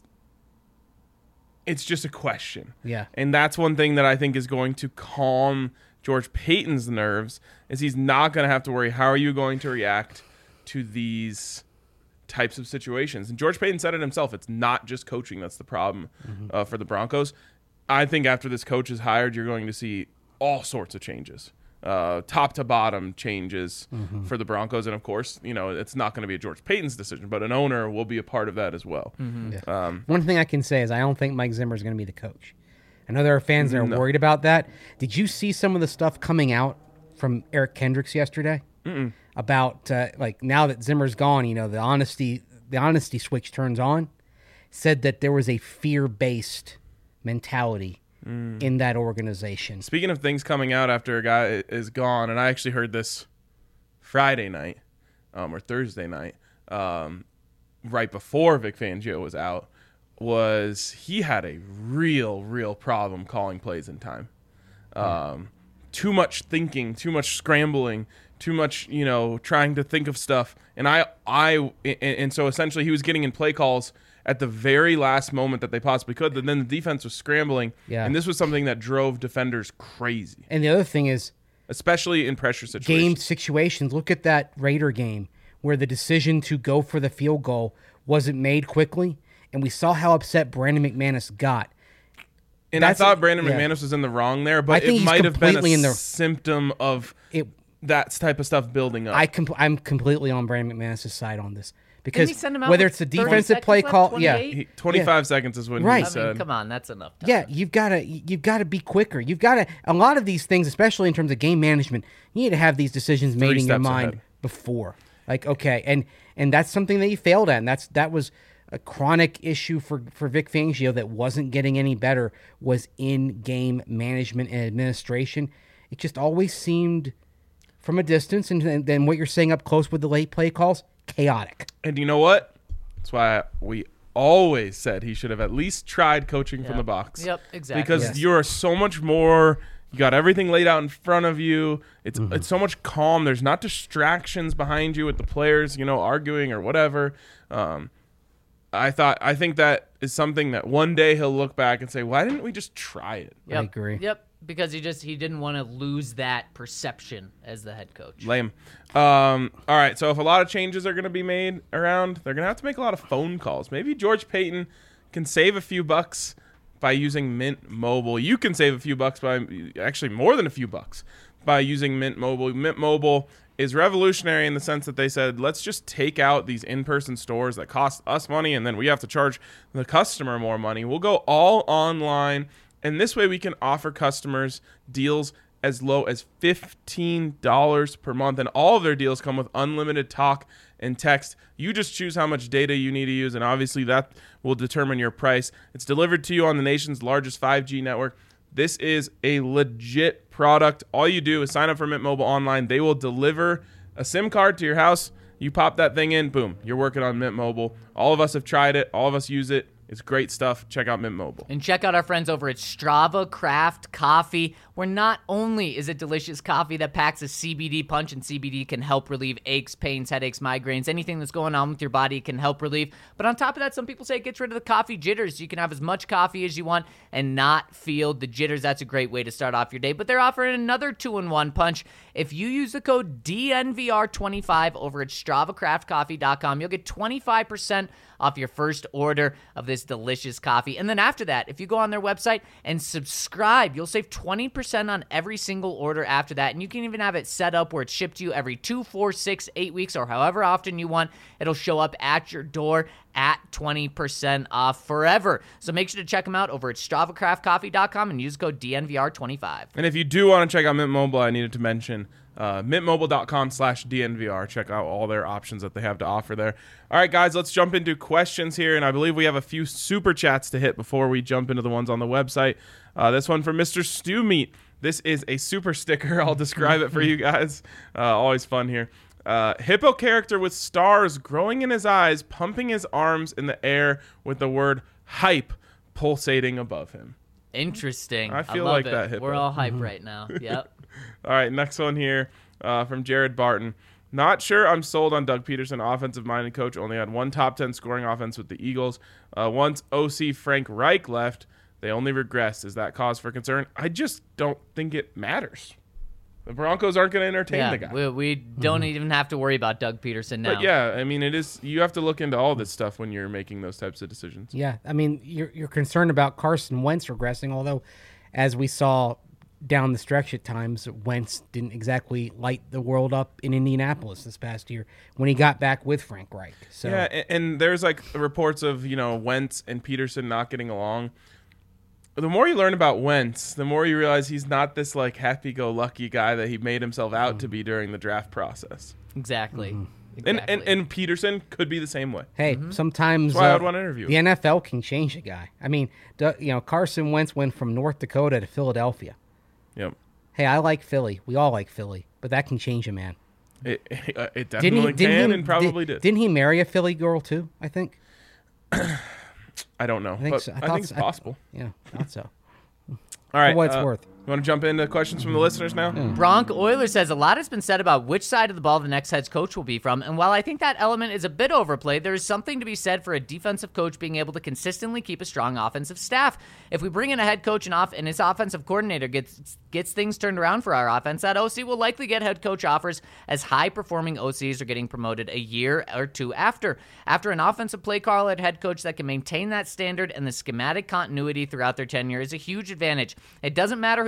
it's just a question. Yeah. And that's one thing that I think is going to calm George Payton's nerves is he's not going to have to worry, how are you going to react to these types of situations? And George Payton said it himself. It's not just coaching that's the problem mm-hmm. uh, for the Broncos. I think after this coach is hired, you're going to see all sorts of changes. Uh, top to bottom changes mm-hmm. for the Broncos. And of course, you know, it's not going to be a George Payton's decision, but an owner will be a part of that as well. Mm-hmm. Yeah. Um, One thing I can say is I don't think Mike Zimmer is going to be the coach. I know there are fans that are no. worried about that. Did you see some of the stuff coming out from Eric Kendricks yesterday Mm-mm. about uh, like now that Zimmer's gone, you know, the honesty, the honesty switch turns on, said that there was a fear-based mentality Mm. in that organization. Speaking of things coming out after a guy is gone, and I actually heard this Friday night um, or Thursday night, um, right before Vic Fangio was out, was he had a real, real problem calling plays in time. Um, mm. Too much thinking, too much scrambling, too much, you know, trying to think of stuff. And I, I, and, and so essentially he was getting in play calls at the very last moment that they possibly could. And then the defense was scrambling. Yeah. And this was something that drove defenders crazy. And the other thing is, especially in pressure situations. Game situations. Look at that Raider game where the decision to go for the field goal wasn't made quickly. And we saw how upset Brandon McManus got. And That's I thought Brandon yeah. McManus was in the wrong there, but it might have been a in the, symptom of it, that type of stuff building up. I com- I'm completely on Brandon McManus' side on this because he send him out whether with it's the thirty defensive play seconds call, left, yeah, twenty-eight? He- twenty-five Yeah. seconds is when Right. he I said. mean, come on, that's enough time. yeah, you've got to you've got to be quicker. You've got to a lot of these things, especially in terms of game management. You need to have these decisions made Three in your steps mind ahead. before. Like okay, and and that's something that you failed at. And that's that was a chronic issue for for Vic Fangio that wasn't getting any better. Was in game management and administration. It just always seemed from a distance, and, and then what you're saying up close with the late play calls, chaotic. And you know what? That's why we always said he should have at least tried coaching from Yep. the box. Yep, exactly. Because Yes. you're so much more. You got everything laid out in front of you. It's Mm-hmm. it's so much calm. There's not distractions behind you with the players, you know, arguing or whatever. Um, I thought I think that is something that one day he'll look back and say, "Why didn't we just try it?" Yep. agree. Yep, because he just he didn't want to lose that perception as the head coach. Lame. Um, all right, so if a lot of changes are going to be made around, they're going to have to make a lot of phone calls. Maybe George Payton can save a few bucks by using Mint Mobile. You can save a few bucks by actually more than a few bucks by using Mint Mobile. Mint Mobile is revolutionary in the sense that they said, let's just take out these in-person stores that cost us money and then we have to charge the customer more money. We'll go all online, and this way we can offer customers deals as low as fifteen dollars per month, and all of their deals come with unlimited talk and text. You just choose how much data you need to use, and obviously that will determine your price. It's delivered to you on the nation's largest five G network. This is a legit product. All you do is sign up for Mint Mobile online. They will deliver a SIM card to your house. You pop that thing in, boom, you're working on Mint Mobile. All of us have tried it. All of us use it. It's great stuff. Check out Mint Mobile. And check out our friends over at Strava Craft Coffee, where not only is it delicious coffee that packs a C B D punch, and C B D can help relieve aches, pains, headaches, migraines, anything that's going on with your body can help relieve. But on top of that, some people say it gets rid of the coffee jitters. You can have as much coffee as you want and not feel the jitters. That's a great way to start off your day. But they're offering another two-in-one punch. If you use the code D N V R twenty-five over at Strava Craft Coffee dot com, you'll get twenty-five percent off your first order of this delicious coffee. And then after that, if you go on their website and subscribe, you'll save twenty percent on every single order after that. And you can even have it set up where it's shipped to you every two, four, six, eight weeks, or however often you want. It'll show up at your door at twenty percent off forever. So make sure to check them out over at Strava Craft Coffee dot com and use code D N V R twenty-five. And if you do want to check out Mint Mobile, I needed to mention uh, mint mobile dot com slash D N V R. Check out all their options that they have to offer there. All right, guys, let's jump into questions here. And I believe we have a few super chats to hit before we jump into the ones on the website. Uh, this one from Mister Stew Meat. This is a super sticker. I'll describe it for you guys. Uh, always fun here. Uh, hippo character with stars growing in his eyes, pumping his arms in the air with the word hype pulsating above him. Interesting. I feel love like it. that hippo. We're all hype right now. Yep. All right, next one here uh, from Jared Barton. Not sure I'm sold on Doug Peterson, offensive-minded coach. Only had one top ten scoring offense with the Eagles. Uh, once O C Frank Reich left, they only regressed. Is that cause for concern? I just don't think it matters. The Broncos aren't going to entertain Yeah, the guy. we, we don't even have to worry about Doug Peterson now. But yeah, I mean, it is. You have to look into all this stuff when you're making those types of decisions. Yeah, I mean, you're you're concerned about Carson Wentz regressing, although, as we saw down the stretch at times, Wentz didn't exactly light the world up in Indianapolis this past year when he got back with Frank Reich. So Yeah, and, and there's like reports of, you know, Wentz and Peterson not getting along. The more you learn about Wentz, the more you realize he's not this like happy-go-lucky guy that he made himself out Mm. to be during the draft process. Exactly. And, exactly. and and Peterson could be the same way. hey, sometimes That's why uh, I'd want to interview the him. N F L can change a guy. I mean, du- you know, Carson Wentz went from North Dakota to Philadelphia. Yep. Hey, I like Philly. We all like Philly, but that can change a man. It, it, uh, it Didn't definitely he? Didn't can he, and probably did. Didn't he marry a Philly girl too? I think. I don't know, I think but so. I I, thought think it's so. I- possible. Yeah, thought so. All right. what it's uh, worth. You want to jump into questions from the listeners now? Bronk Oilers says a lot has been said about which side of the ball the next head coach will be from, and while I think that element is a bit overplayed, there is something to be said for a defensive coach being able to consistently keep a strong offensive staff. If we bring in a head coach and off and his offensive coordinator gets gets things turned around for our offense, that O C will likely get head coach offers as high-performing O Cs are getting promoted a year or two after. After an offensive play caller at head coach that can maintain that standard and the schematic continuity throughout their tenure is a huge advantage. It doesn't matter who the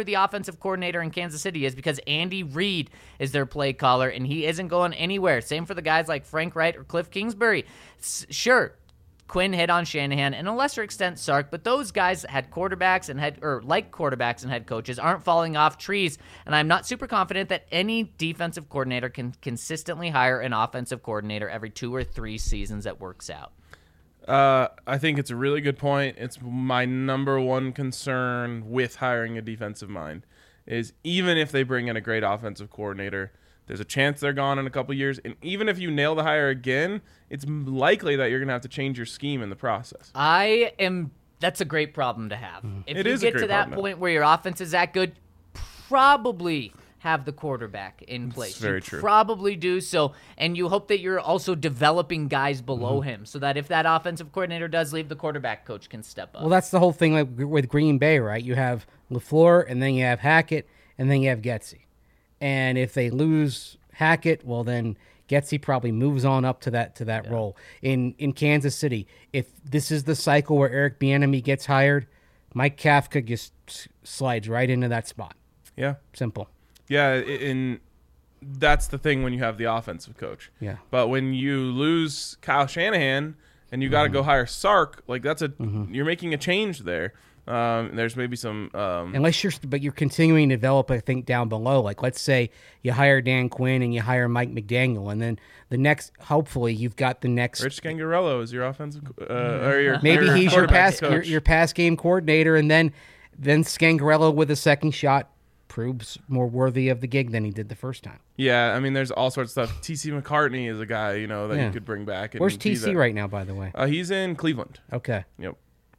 the offensive coordinator in Kansas City is because Andy Reid is their play caller, and he isn't going anywhere. Same for the guys like Frank Wright or Cliff Kingsbury. S- sure, Quinn hit on Shanahan, and a lesser extent Sark, but those guys that had quarterbacks and had, or like quarterbacks and head coaches, aren't falling off trees, and I'm not super confident that any defensive coordinator can consistently hire an offensive coordinator every two or three seasons that works out. Uh, I think it's a really good point. It's my number one concern with hiring a defensive mind is even if they bring in a great offensive coordinator, there's a chance they're gone in a couple years. And even if you nail the hire again, it's likely that you're going to have to change your scheme in the process. I am. That's a great problem to have. Mm-hmm. If It you is a get great to that problem to point where your offense is that good, probably have the quarterback in place. very you true. Probably do so, and you hope that you're also developing guys below Mm-hmm. him, so that if that offensive coordinator does leave, the quarterback coach can step up. Well, that's the whole thing like with Green Bay, right? You have LaFleur, and then you have Hackett, and then you have Getsy. And if they lose Hackett, well, then Getsy probably moves on up to that to that Yeah. role. In in Kansas City, if this is the cycle where Eric Bieniemy gets hired, Mike Kafka just s- slides right into that spot. Yeah. Simple. Yeah, i- in that's the thing when you have the offensive coach. Yeah. But when you lose Kyle Shanahan and you got to Mm-hmm. go hire Sark, like that's a you're making a change there. Um, there's maybe some um, Unless you're, but you're continuing to develop, I think, down below. Like, let's say you hire Dan Quinn and you hire Mike McDaniel, and then the next, hopefully, you've got the next. Rich Scangarello is your offensive uh, or your Maybe your he's your quarterback pass coach. your, your pass game coordinator, and then then Scangarello with a second shot proves more worthy of the gig than he did the first time. Yeah, I mean, there's all sorts of stuff. T C McCartney is a guy you know that Yeah. you could bring back. And Where's be T C that- right now, by the way? Uh, he's in Cleveland. Okay, Yep.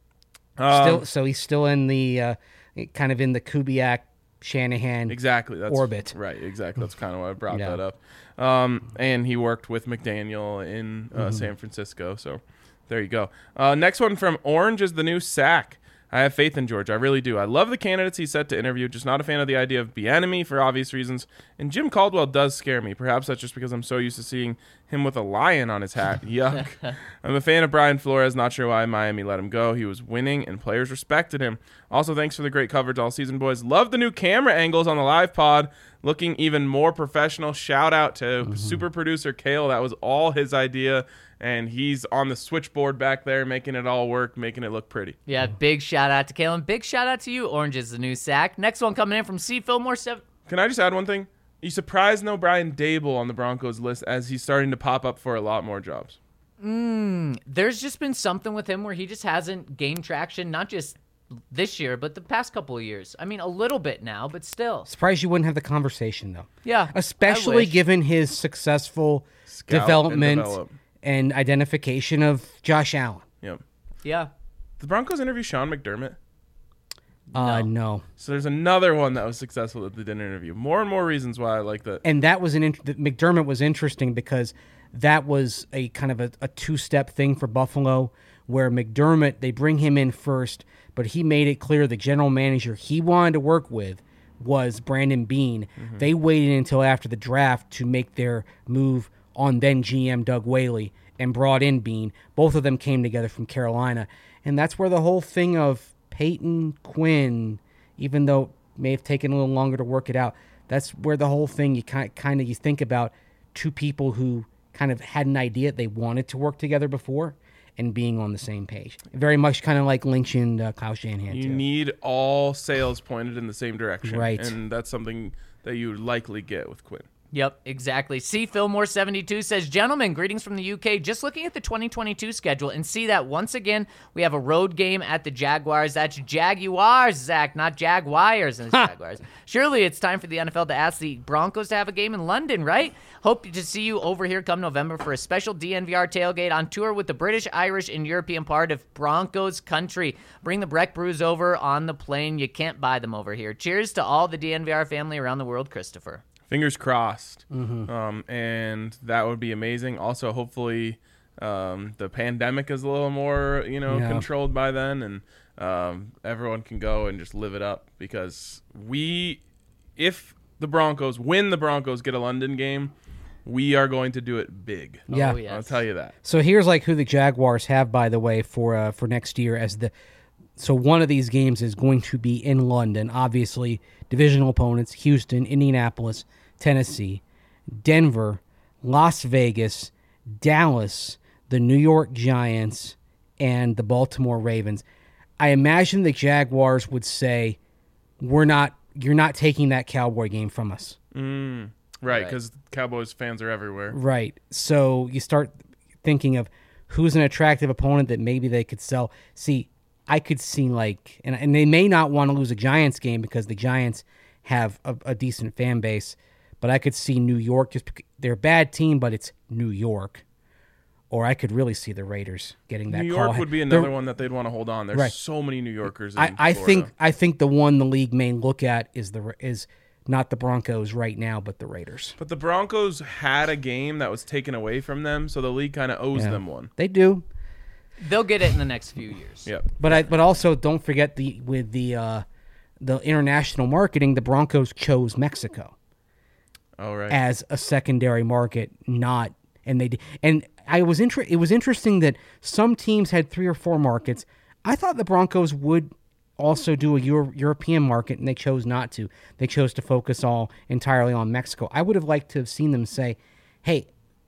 Um, still, so he's still in the uh, kind of in the Kubiak Shanahan. Exactly. That's orbit. Right. Exactly. That's kind of why I brought Yeah. that up. Um, and he worked with McDaniel in uh, Mm-hmm. San Francisco. So there you go. Uh, next one from Orange is the new sack. I have faith in George. I really do. I love the candidates he's set to interview. Just not a fan of the idea of Bieniemy for obvious reasons. And Jim Caldwell does scare me. Perhaps that's just because I'm so used to seeing him with a lion on his hat. Yuck. I'm a fan of Brian Flores. Not sure why Miami let him go. He was winning, and players respected him. Also, thanks for the great coverage all season, boys. Love the new camera angles on the live pod. Looking even more professional. Shout out to Mm-hmm. super producer Kale. That was all his idea. And he's on the switchboard back there, making it all work, making it look pretty. Yeah, big shout out to Kalen. Big shout out to you. Orange is the new sack. Next one coming in from C. Fillmore. Seven. Can I just add one thing? You surprised no Brian Dable on the Broncos list as he's starting to pop up for a lot more jobs. There's just been something with him where he just hasn't gained traction, not just this year, but the past couple of years. I mean, a little bit now, but still. Surprised you wouldn't have the conversation though. Yeah. I Especially wish. given his successful Scout and development develop. and identification of Josh Allen. Yep. Yeah. The Broncos interview Sean McDermott. Uh, no. So there's another one that was successful that they didn't interview. More and more reasons why I like that. And that was an int- that McDermott was interesting because that was a kind of a, a two-step thing for Buffalo where McDermott, they bring him in first, but he made it clear the general manager he wanted to work with was Brandon Beane. Mm-hmm. They waited until after the draft to make their move on then G M Doug Whaley and brought in Beane. Both of them came together from Carolina. And that's where the whole thing of Peyton Quinn, even though it may have taken a little longer to work it out, that's where the whole thing you kind kind of you think about two people who kind of had an idea they wanted to work together before and being on the same page. Very much kind of like Lynch and uh, Kyle Shanahan. You too. need all sails pointed in the same direction. Right. And that's something that you would likely get with Quinn. Yep, exactly. C. Fillmore seventy-two says, gentlemen, greetings from the U K. Just looking at the twenty twenty-two schedule and see that once again we have a road game at the Jaguars. That's Jaguars, Zach, not Jaguars and Jaguars. Surely it's time for the N F L to ask the Broncos to have a game in London, right? Hope to see you over here come November for a special D N V R tailgate on tour with the British, Irish, and European part of Broncos country. Bring the Breck Brews over on the plane. You can't buy them over here. Cheers to all the D N V R family around the world, Christopher. Fingers crossed. Mm-hmm. Um, and that would be amazing. Also, hopefully, um, the pandemic is a little more, you know, Yeah. controlled by then, and um, everyone can go and just live it up. Because we, if the Broncos win, the Broncos get a London game, we are going to do it big. Yeah. Oh, yes. I'll tell you that. So here's like who the Jaguars have, by the way, for uh, for next year as the so one of these games is going to be in London. Obviously, divisional opponents: Houston, Indianapolis, Tennessee, Denver, Las Vegas, Dallas, the New York Giants, and the Baltimore Ravens. I imagine the Jaguars would say, "We're not. You're not taking that Cowboy game from us." Mm, right, because right. Cowboys fans are everywhere. Right. So you start thinking of who's an attractive opponent that maybe they could sell. See, I could see like, and, and they may not want to lose a Giants game because the Giants have a, a decent fan base, but I could see New York, just they're a bad team, but it's New York. Or I could really see the Raiders getting that New call. York would be another They're, one that they'd want to hold on. There's right. so many New Yorkers in I, I Florida. think I think the one the league may look at is the is not the Broncos right now, but the Raiders. But the Broncos had a game that was taken away from them, so the league kind of owes Yeah. them one. They do. They'll get it in the next few years. Yeah. But I but also don't forget the with the uh, the international marketing, the Broncos chose Mexico Oh, right. as a secondary market, not and they did, and I was inter- it was interesting that some teams had three or four markets. I thought the Broncos would also do a Euro- European market, and they chose not to. They chose to focus all entirely on Mexico. I would have liked to have seen them say, "Hey,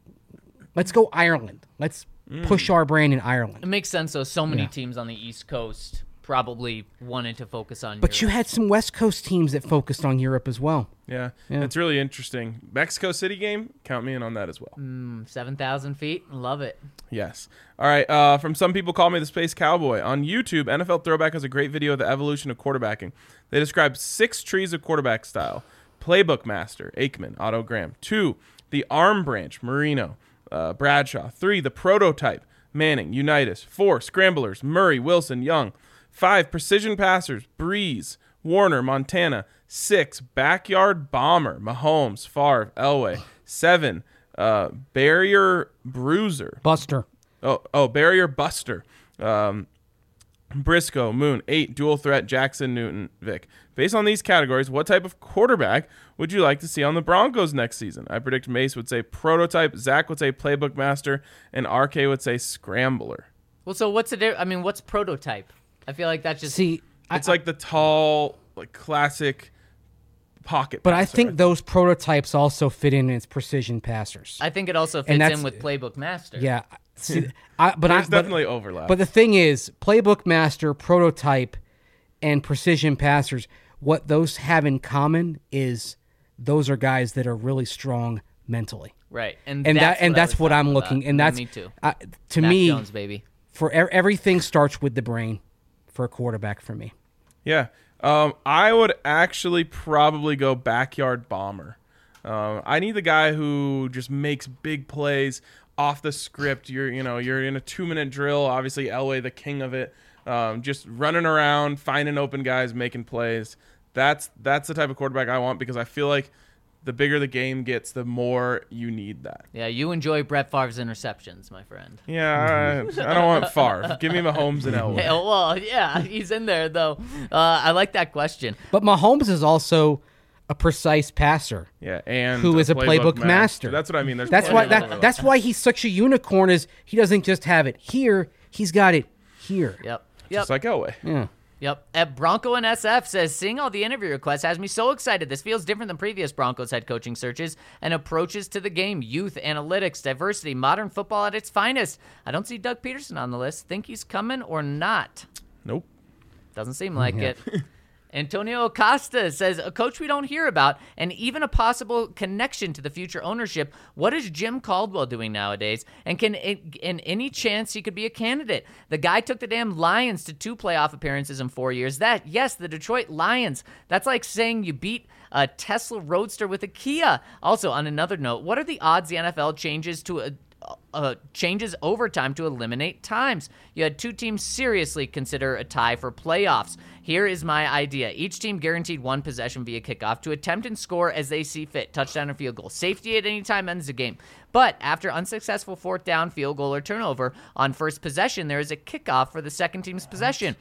let's go Ireland. Let's Mm. push our brand in It Ireland." makes sense, though. So many Yeah. teams on the East Coast probably wanted to focus on But you Europe. had some West Coast teams that focused on Europe as well. Yeah. Yeah. It's really interesting. Mexico City game, count me in on that as well. Mm, seven thousand feet. Love it. Yes. All right. Uh, from Some People Call Me the Space Cowboy. On YouTube, N F L Throwback has a great video of the evolution of quarterbacking. They describe six trees of quarterback style. Playbook Master, Aikman, Otto Graham. Two, the arm branch, Marino, uh, Bradshaw. Three, the prototype, Manning, Unitas. Four, scramblers, Murray, Wilson, Young. Five, precision passers, Breeze, Warner, Montana. Six, backyard bomber, Mahomes, Favre, Elway. Seven, uh, barrier bruiser. Buster. Oh, oh, barrier buster. Um, Briscoe, Moon. Eight, dual threat, Jackson, Newton, Vic. Based on these categories, what type of quarterback would you like to see on the Broncos next season? I predict Mace would say prototype, Zach would say playbook master, and R K would say scrambler. Well, so what's the difference? I mean, what's prototype? I feel like that's just See, It's I, like the tall, like classic pocket. but I passer. think those prototypes also fit in as precision passers. I think it also And fits that's- in with Playbook Master. Yeah. See, I, but There's I, but, definitely overlap. But the thing is, playbook master, prototype, and precision passers, what those have in common is those are guys that are really strong mentally. Right. And And that's that and what I that's was what I'm talking looking about. and that's me too. uh, to Mac me Jones, baby. for e- everything starts with the brain for a quarterback for me. Yeah. Um, I would actually probably go backyard bomber. Um, I need the guy who just makes big plays off the script. You're, you know, you're in a two-minute drill. Obviously, Elway, the king of it. Um, just running around, finding open guys, making plays. That's that's the type of quarterback I want because I feel like the bigger the game gets, the more you need that. Yeah, you enjoy Brett Favre's interceptions, my friend. Yeah, I, I don't want Favre. Give me Mahomes and Elway. Yeah, well, yeah, he's in there though. Uh, I like that question. But Mahomes is also a precise passer. Yeah, and Who is a playbook master. That's what I mean. There's That's plenty why of that, overlap. that's why he's such a unicorn is he doesn't just have it here, he's got it here. Yep. Yep. Just like Elway. Yeah. Yep. At Bronco and S F says, seeing all the interview requests has me so excited. This feels different than previous Broncos head coaching searches and approaches to the game. Youth, analytics, diversity, modern football at its finest. I don't see Doug Peterson on the list. Think he's coming or not? Nope. Doesn't seem like it. Antonio Acosta says, a coach we don't hear about and even a possible connection to the future ownership. What is Jim Caldwell doing nowadays? And can it, in any chance he could be a candidate? The guy took the damn Lions to two playoff appearances in four years. That, yes, the Detroit Lions. That's like saying you beat a Tesla Roadster with a Kia. Also, on another note, what are the odds the N F L changes to a Uh, changes overtime to eliminate times? You had two teams seriously consider a tie for playoffs. Here is my idea. Each team guaranteed one possession via kickoff to attempt and score as they see fit. Touchdown or field goal. Safety at any time ends the game. But after unsuccessful fourth down, field goal, or turnover on first possession, there is a kickoff for the second team's possession.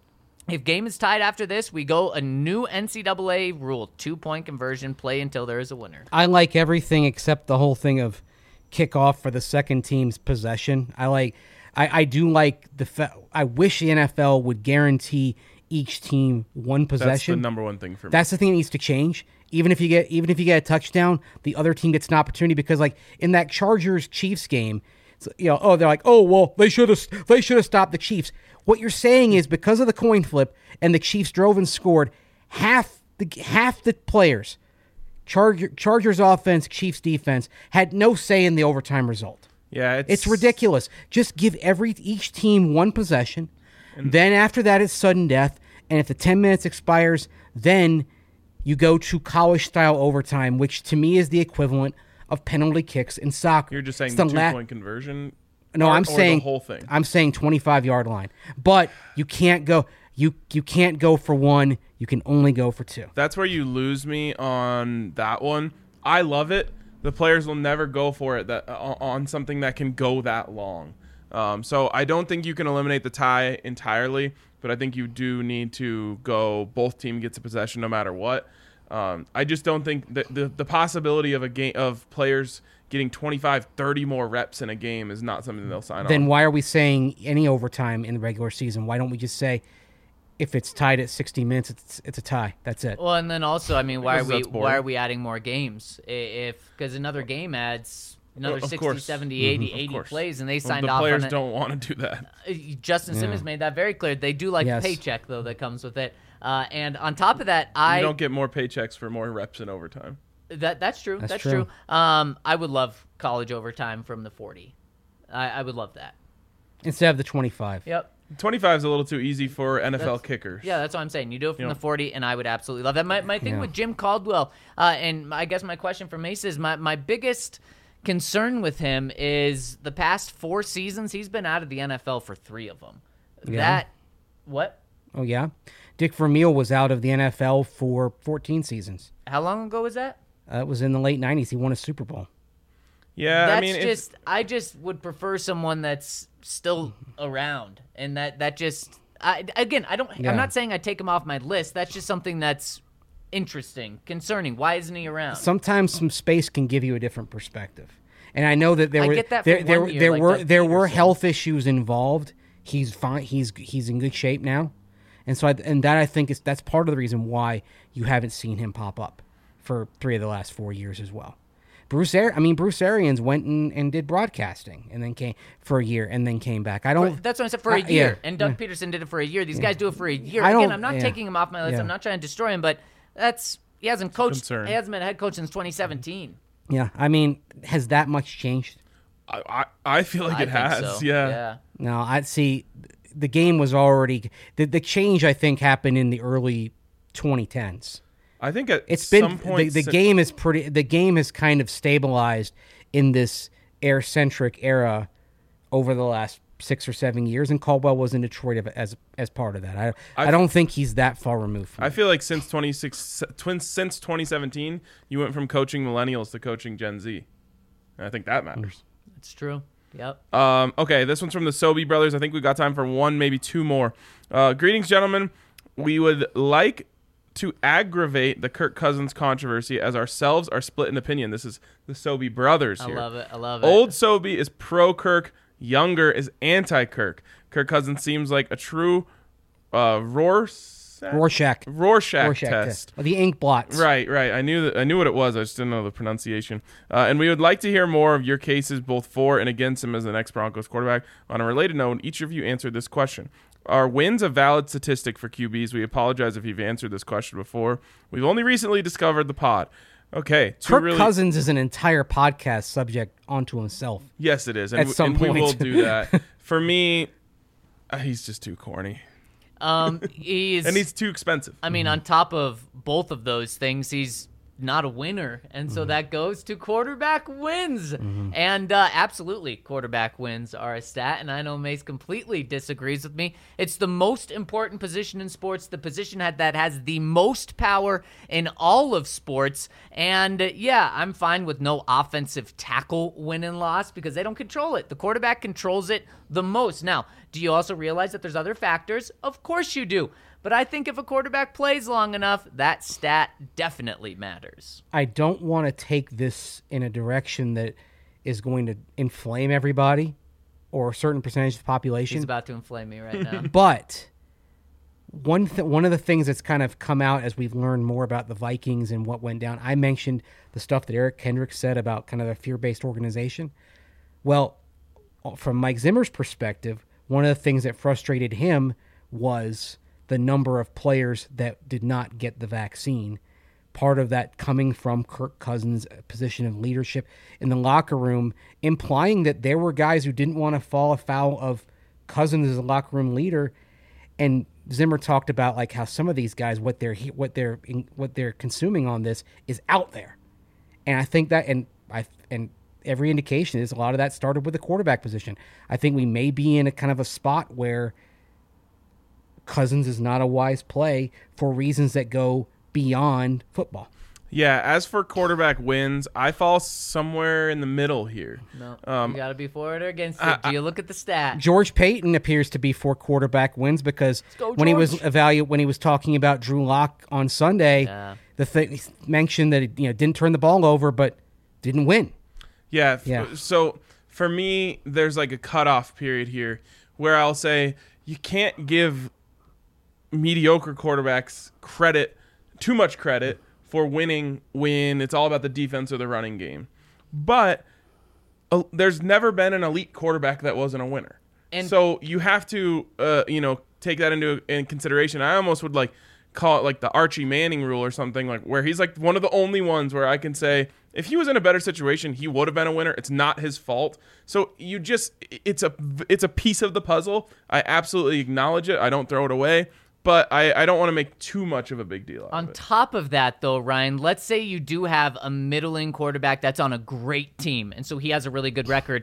If game is tied after this, we go a new N C double A rule. Two-point conversion, play until there is a winner. I like everything except the whole thing of kickoff for the second team's possession. I like, I, I do like the. Fa- I wish the N F L would guarantee each team one possession. That's the number one thing for me. That's the thing that needs to change. Even if you get, even if you get a touchdown, the other team gets an opportunity because, like in that Chargers Chiefs game, it's, you know, oh, they're like, oh, well, they should have, they should have stopped the Chiefs. What you're saying is because of the coin flip and the Chiefs drove and scored, half the half the players, Charger, Chargers offense, Chiefs defense, had no say in the overtime result. Yeah, it's, It's ridiculous. Just give every each team one possession. Then after that, it's sudden death. And if the ten minutes expires, then you go to college-style overtime, which to me is the equivalent of penalty kicks in soccer. You're just saying It's the the la- two-point conversion. No, part I'm or saying the whole thing. I'm saying twenty-five yard line. But you can't go. You you can't go for one. You can only go for two. That's where you lose me on that one. I love it. The players will never go for it that uh, on something that can go that long. Um, so I don't think you can eliminate the tie entirely, but I think you do need to go both team gets a possession no matter what. Um, I just don't think that the, the possibility of a game of players getting twenty-five, thirty more reps in a game is not something they'll sign Then on. why are we saying any overtime in the regular season? Why don't we just say if it's tied at sixty minutes, it's it's a tie. That's it. Well, and then also, I mean, why are Because we that's boring. why are we adding more games? I- If because another game adds another Well, of sixty, course. seventy, eighty, Of eighty course. plays, and they Well, signed the off players on it. don't want to do that. Uh, Justin Simmons made that very clear. They do like Yes. the paycheck though that comes with it. Uh, and on top of that, You I don't get more paychecks for more reps in overtime. that that's true. That's, That's true. true. Um, I would love college overtime from the forty. I, I would love that. Instead of the twenty-five. Yep. twenty-five is a little too easy for N F L That's- kickers. Yeah, that's what I'm saying. You do it from You know. the forty, and I would absolutely love that. My, my thing Yeah. with Jim Caldwell, uh, and I guess my question for Mace is my, my biggest concern with him is the past four seasons, he's been out of the N F L for three of them. Yeah. That, what? Oh yeah. Dick Vermeil was out of the N F L for fourteen seasons. How long ago was that? Uh, it was in the late nineties. He won a Super Bowl. Yeah, That's I mean, it's- just, I just would prefer someone that's still around. And that, that just, I, again, I don't, Yeah. I'm not saying I take him off my list. That's just something that's interesting, concerning. Why isn't he around? Sometimes some space can give you a different perspective. And I know that there I were get that for there there, one year, there like were Doug there were Peterson. health issues involved. He's fine. He's he's in good shape now, and so I, and that I think is that's part of the reason why you haven't seen him pop up for three of the last four years as well. Bruce Ar- I mean Bruce Arians went and, and did broadcasting and then came for a year and then came back. I For- don't. that's what I said for a I- year. yeah, and Doug yeah. Peterson did it for a year. These guys do it for a year. I Again, don't- I'm not yeah. taking him off my list. Yeah. I'm not trying to destroy him, but that's he hasn't coached. concern. He hasn't been a head coach since twenty seventeen. Yeah, I mean, has that much changed? I, I, I feel like I it think has. so. Yeah. yeah. No, I see. The game was already the the change. I think happened in the early twenty tens. I think at It's been some point the, the si- game is pretty. The game has kind of stabilized in this air centric era over the last six or seven years, and Caldwell was in Detroit as as part of that. I I, I- don't think he's that far removed from I it. feel like since twenty-six, twin, since twenty seventeen, you went from coaching millennials to coaching Gen Z. And I think that matters. It's true. Yep. Um, okay, this one's from the Sobey brothers. I think we got time for one, maybe two more. Uh, greetings, gentlemen. We would like to aggravate the Kirk Cousins controversy as ourselves are split in opinion. This is the Sobey brothers I here. love it. I love it. Old Sobey is pro Kirk, younger is anti Kirk. Kirk Cousins seems like a true uh, Rorschach, Rorschach. Rorschach, Rorschach test. test. The ink blots. Right, right. I knew that. I knew what it was. I just didn't know the pronunciation. Uh, and we would like to hear more of your cases, both for and against him as the next Broncos quarterback. On a related note, each of you answered this question: are wins a valid statistic for Q Bs? We apologize if you've answered this question before. We've only recently discovered the pod. Okay, two Kirk really, Cousins is an entire podcast subject onto himself. Yes, it is, and, At w- some and we point. will do that. For me, uh, he's just too corny, Um, he's. and he's too expensive. I mean, on top of both of those things, he's not a winner, and so that goes to quarterback wins. And uh, absolutely, quarterback wins are a stat, and I know Mace completely disagrees with me. It's the most important position in sports, the position had, that has the most power in all of sports. And uh, yeah, I'm fine with no offensive tackle win and loss because they don't control it. The quarterback controls it the most. Now, do you also realize that there's other factors? Of course you do. But I think if a quarterback plays long enough, that stat definitely matters. I don't want to take this in a direction that is going to inflame everybody or a certain percentage of the population. He's about to inflame me right now. But one th- one of the things that's kind of come out as we've learned more about the Vikings and what went down, I mentioned the stuff that Eric Kendricks said about kind of a fear-based organization. Well, from Mike Zimmer's perspective, one of the things that frustrated him was the number of players that did not get the vaccine. Part of that coming from Kirk Cousins' position of leadership in the locker room, implying that there were guys who didn't want to fall afoul of Cousins as a locker room leader. And Zimmer talked about like how some of these guys, what they're what they're what they're consuming on this is out there. And I think that, and I and every indication is a lot of that started with the quarterback position. I think we may be in a kind of a spot where Cousins is not a wise play for reasons that go beyond football. Yeah, as for quarterback wins, I fall somewhere in the middle here. No, Um, you got to be for it or against it. I- Do you look at the stat? George Payton appears to be for quarterback wins because go, when he was George. evalu- when he was talking about Drew Lock on Sunday, Yeah. the thing he mentioned that he, you know didn't turn the ball over but didn't win. Yeah, f- Yeah. So for me, there's like a cutoff period here where I'll say you can't give mediocre quarterbacks credit, too much credit, for winning when it's all about the defense or the running game. But uh, there's never been an elite quarterback that wasn't a winner. And- so you have to, uh, you know, take that into in consideration. I almost would like call it like the Archie Manning rule or something, like where he's like one of the only ones where I can say if he was in a better situation, he would have been a winner. It's not his fault. So you just, it's a, it's a piece of the puzzle. I absolutely acknowledge it. I don't throw it away. But I, I don't want to make too much of a big deal out On of it. top of that, though, Ryan, let's say you do have a middling quarterback that's on a great team, and so he has a really good record.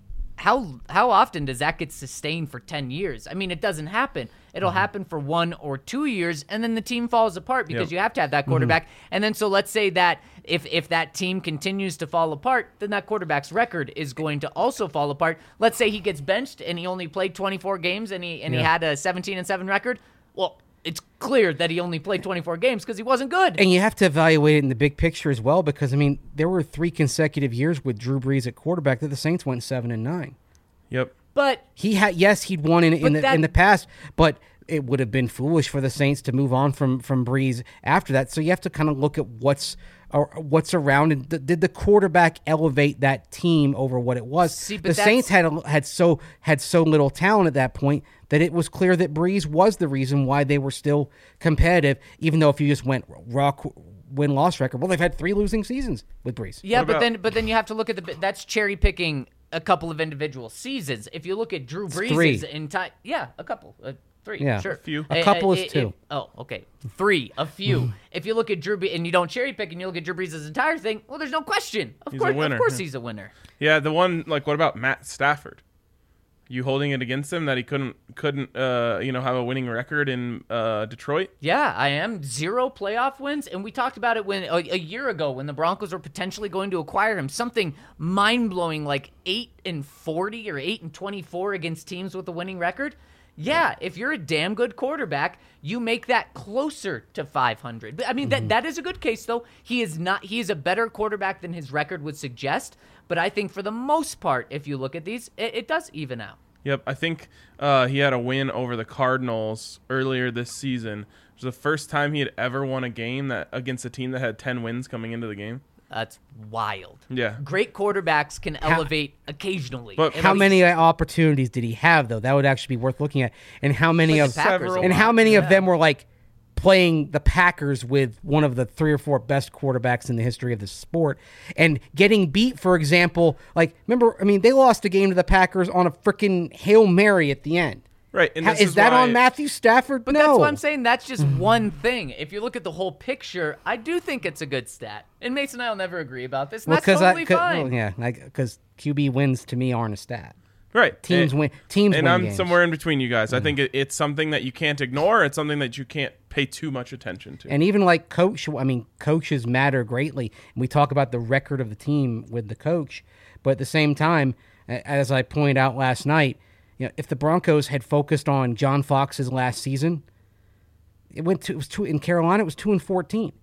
How how often does that get sustained for ten years? I mean, it doesn't happen. It'll Mm-hmm. happen for one or two years, and then the team falls apart because Yep. you have to have that quarterback. And then so let's say that if, if that team continues to fall apart, then that quarterback's record is going to also fall apart. Let's say he gets benched and he only played twenty-four games and he and he Yeah. had a seventeen and seven record. Well, it's clear that he only played twenty-four games because he wasn't good. And you have to evaluate it in the big picture as well, because I mean, there were three consecutive years with Drew Brees at quarterback that the Saints went seven and nine. Yep. But He had yes, he'd won in, in But the that- in the past, but it would have been foolish for the Saints to move on from from Brees after that. So you have to kind of look at what's or what's around, and th- did the quarterback elevate that team over what it was? See, but the that's- Saints had a, had so had so little talent at that point that it was clear that Brees was the reason why they were still competitive. Even though if you just went raw qu- win loss record, well, they've had three losing seasons with Brees. yeah, What but about- then but then you have to look at the that's cherry picking a couple of individual seasons. If you look at Drew three. Brees' entire yeah, a couple, uh, three, Yeah. sure, A few. A couple is it- two. it- oh, okay, three, a few. If you look at Drew Brees and you don't cherry pick and you look at Drew Brees' entire thing, well, there's no question. Of He's a course, winner, of course, yeah. he's a winner. Yeah, the one, like, what about Matt Stafford? You holding it against him that he couldn't, couldn't, uh, you know, have a winning record in uh, Detroit? Yeah, I am. Zero playoff wins. And we talked about it when a, a year ago when the Broncos were potentially going to acquire him. Something mind-blowing like eight and forty or eight and twenty-four against teams with a winning record. Yeah, if you're a damn good quarterback, you make that closer to five hundred. I mean, that that is a good case, though. He is not. He is a better quarterback than his record would suggest. But I think for the most part, if you look at these, it, it does even out. Yep, I think uh, he had a win over the Cardinals earlier this season. It was the first time he had ever won a game that against a team that had ten wins coming into the game. That's wild. Yeah. Great quarterbacks can elevate occasionally. But And How at many least- opportunities did he have though? That would actually be worth looking at. And how many Like of the Packers Several. and how many Yeah. of them were like playing the Packers with one of the three or four best quarterbacks in the history of the sport and getting beat, for example, like remember, I mean, they lost a game to the Packers on a freaking Hail Mary at the end. Right. And How, this is, that why- on Matthew Stafford? But no. that's what I'm saying. That's just one thing. If you look at the whole picture, I do think it's a good stat. And Mason and I will never agree about this. And Well, that's totally I, 'cause- fine. well, yeah, because Q B wins to me aren't a stat. Right. Teams and, win. Teams And win I'm games. somewhere in between you guys. I think it, it's something that you can't ignore. It's something that you can't pay too much attention to. And even like coach, I mean, coaches matter greatly. And we talk about the record of the team with the coach, but at the same time, a- as I pointed out last night, you know, if the Broncos had focused on John Fox's last season, it went to it was two in Carolina. It was two and fourteen,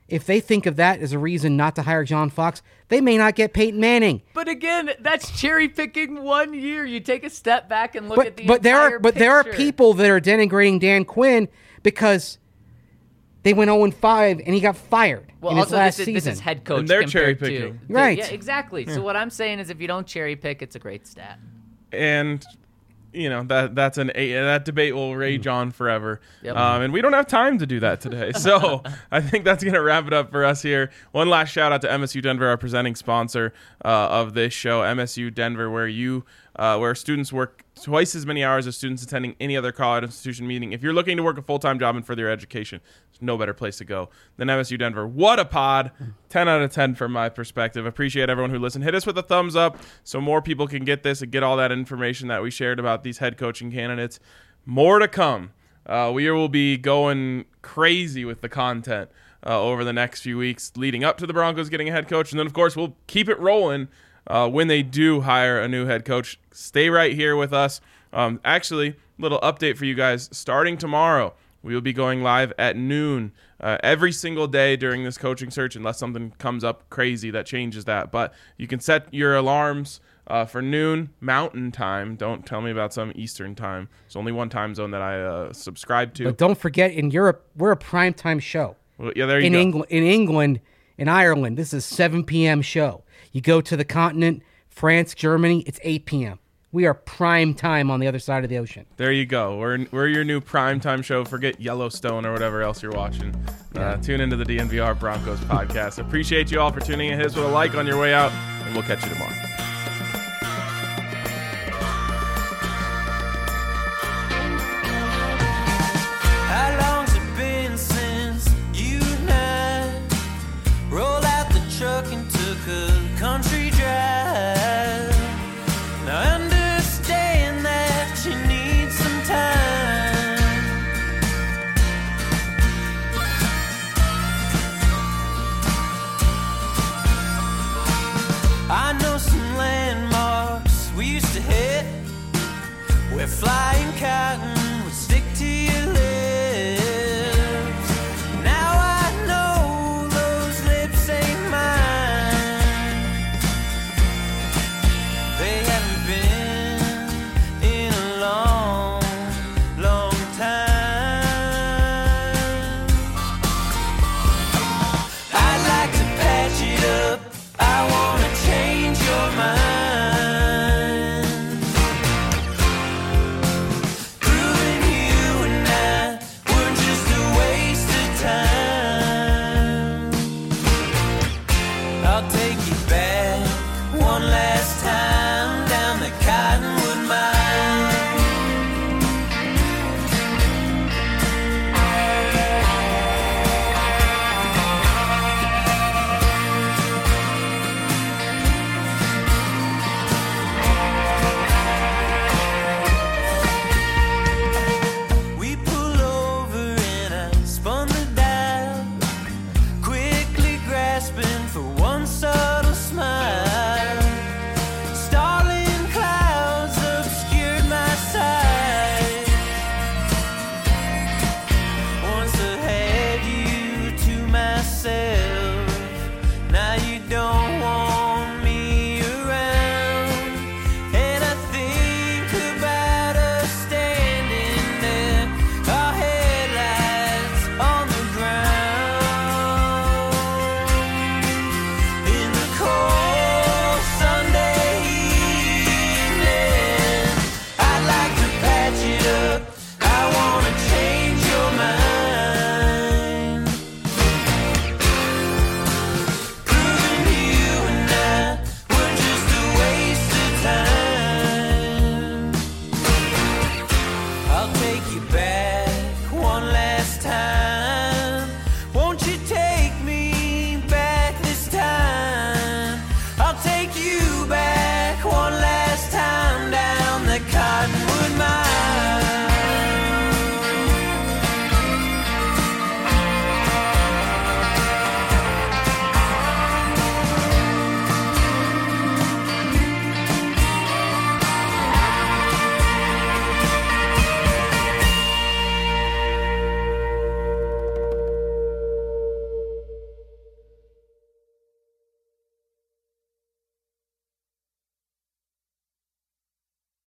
if they think of that as a reason not to hire John Fox, they may not get Peyton Manning. But again, that's cherry picking one year. You take a step back and look But at the but there entire are but there are picture. people that are denigrating Dan Quinn because they went oh and five and he got fired Well, in his also last this is, season. this is head coach. And they're compared cherry-picking. to- to- Right. Yeah, exactly. So what I'm saying is, if you don't cherry pick, it's a great stat. And you know that that's an a, that debate will rage on forever. Yep. Um, and we don't have time to do that today. So I think that's gonna wrap it up for us here. One last shout out to M S U Denver, our presenting sponsor uh, of this show, M S U Denver, where you uh, where students work twice as many hours as students attending any other college institution. Meaning, if you're looking to work a full time job and further your education, there's no better place to go than M S U Denver. What a pod! ten out of ten from my perspective. Appreciate everyone who listened. Hit us with a thumbs up so more people can get this and get all that information that we shared about these head coaching candidates. More to come. Uh, we will be going crazy with the content uh, over the next few weeks leading up to the Broncos getting a head coach. And then, of course, we'll keep it rolling uh, when they do hire a new head coach. Stay right here with us. Um, actually, little update for you guys. Starting tomorrow, we will be going live at noon uh, every single day during this coaching search, unless something comes up crazy that changes that. But you can set your alarms uh, for noon Mountain Time. Don't tell me about some Eastern time. There's only one time zone that I uh, subscribe to. But don't forget, in Europe, we're a primetime show. Well, yeah, there you in go. England, in England, in Ireland, this is a seven p.m. show. You go to the continent, France, Germany, it's eight p.m. We are prime time on the other side of the ocean. There you go. We're we're your new primetime show. Forget Yellowstone or whatever else you're watching. Uh, tune into the D N V R Broncos podcast. Appreciate you all for tuning in. Hit us with a like on your way out, and we'll catch you tomorrow. How long's it been since you and I rolled out the truck and took a country drive? Now I understand that you need some time. I know some landmarks we used to hit. We're flying cotton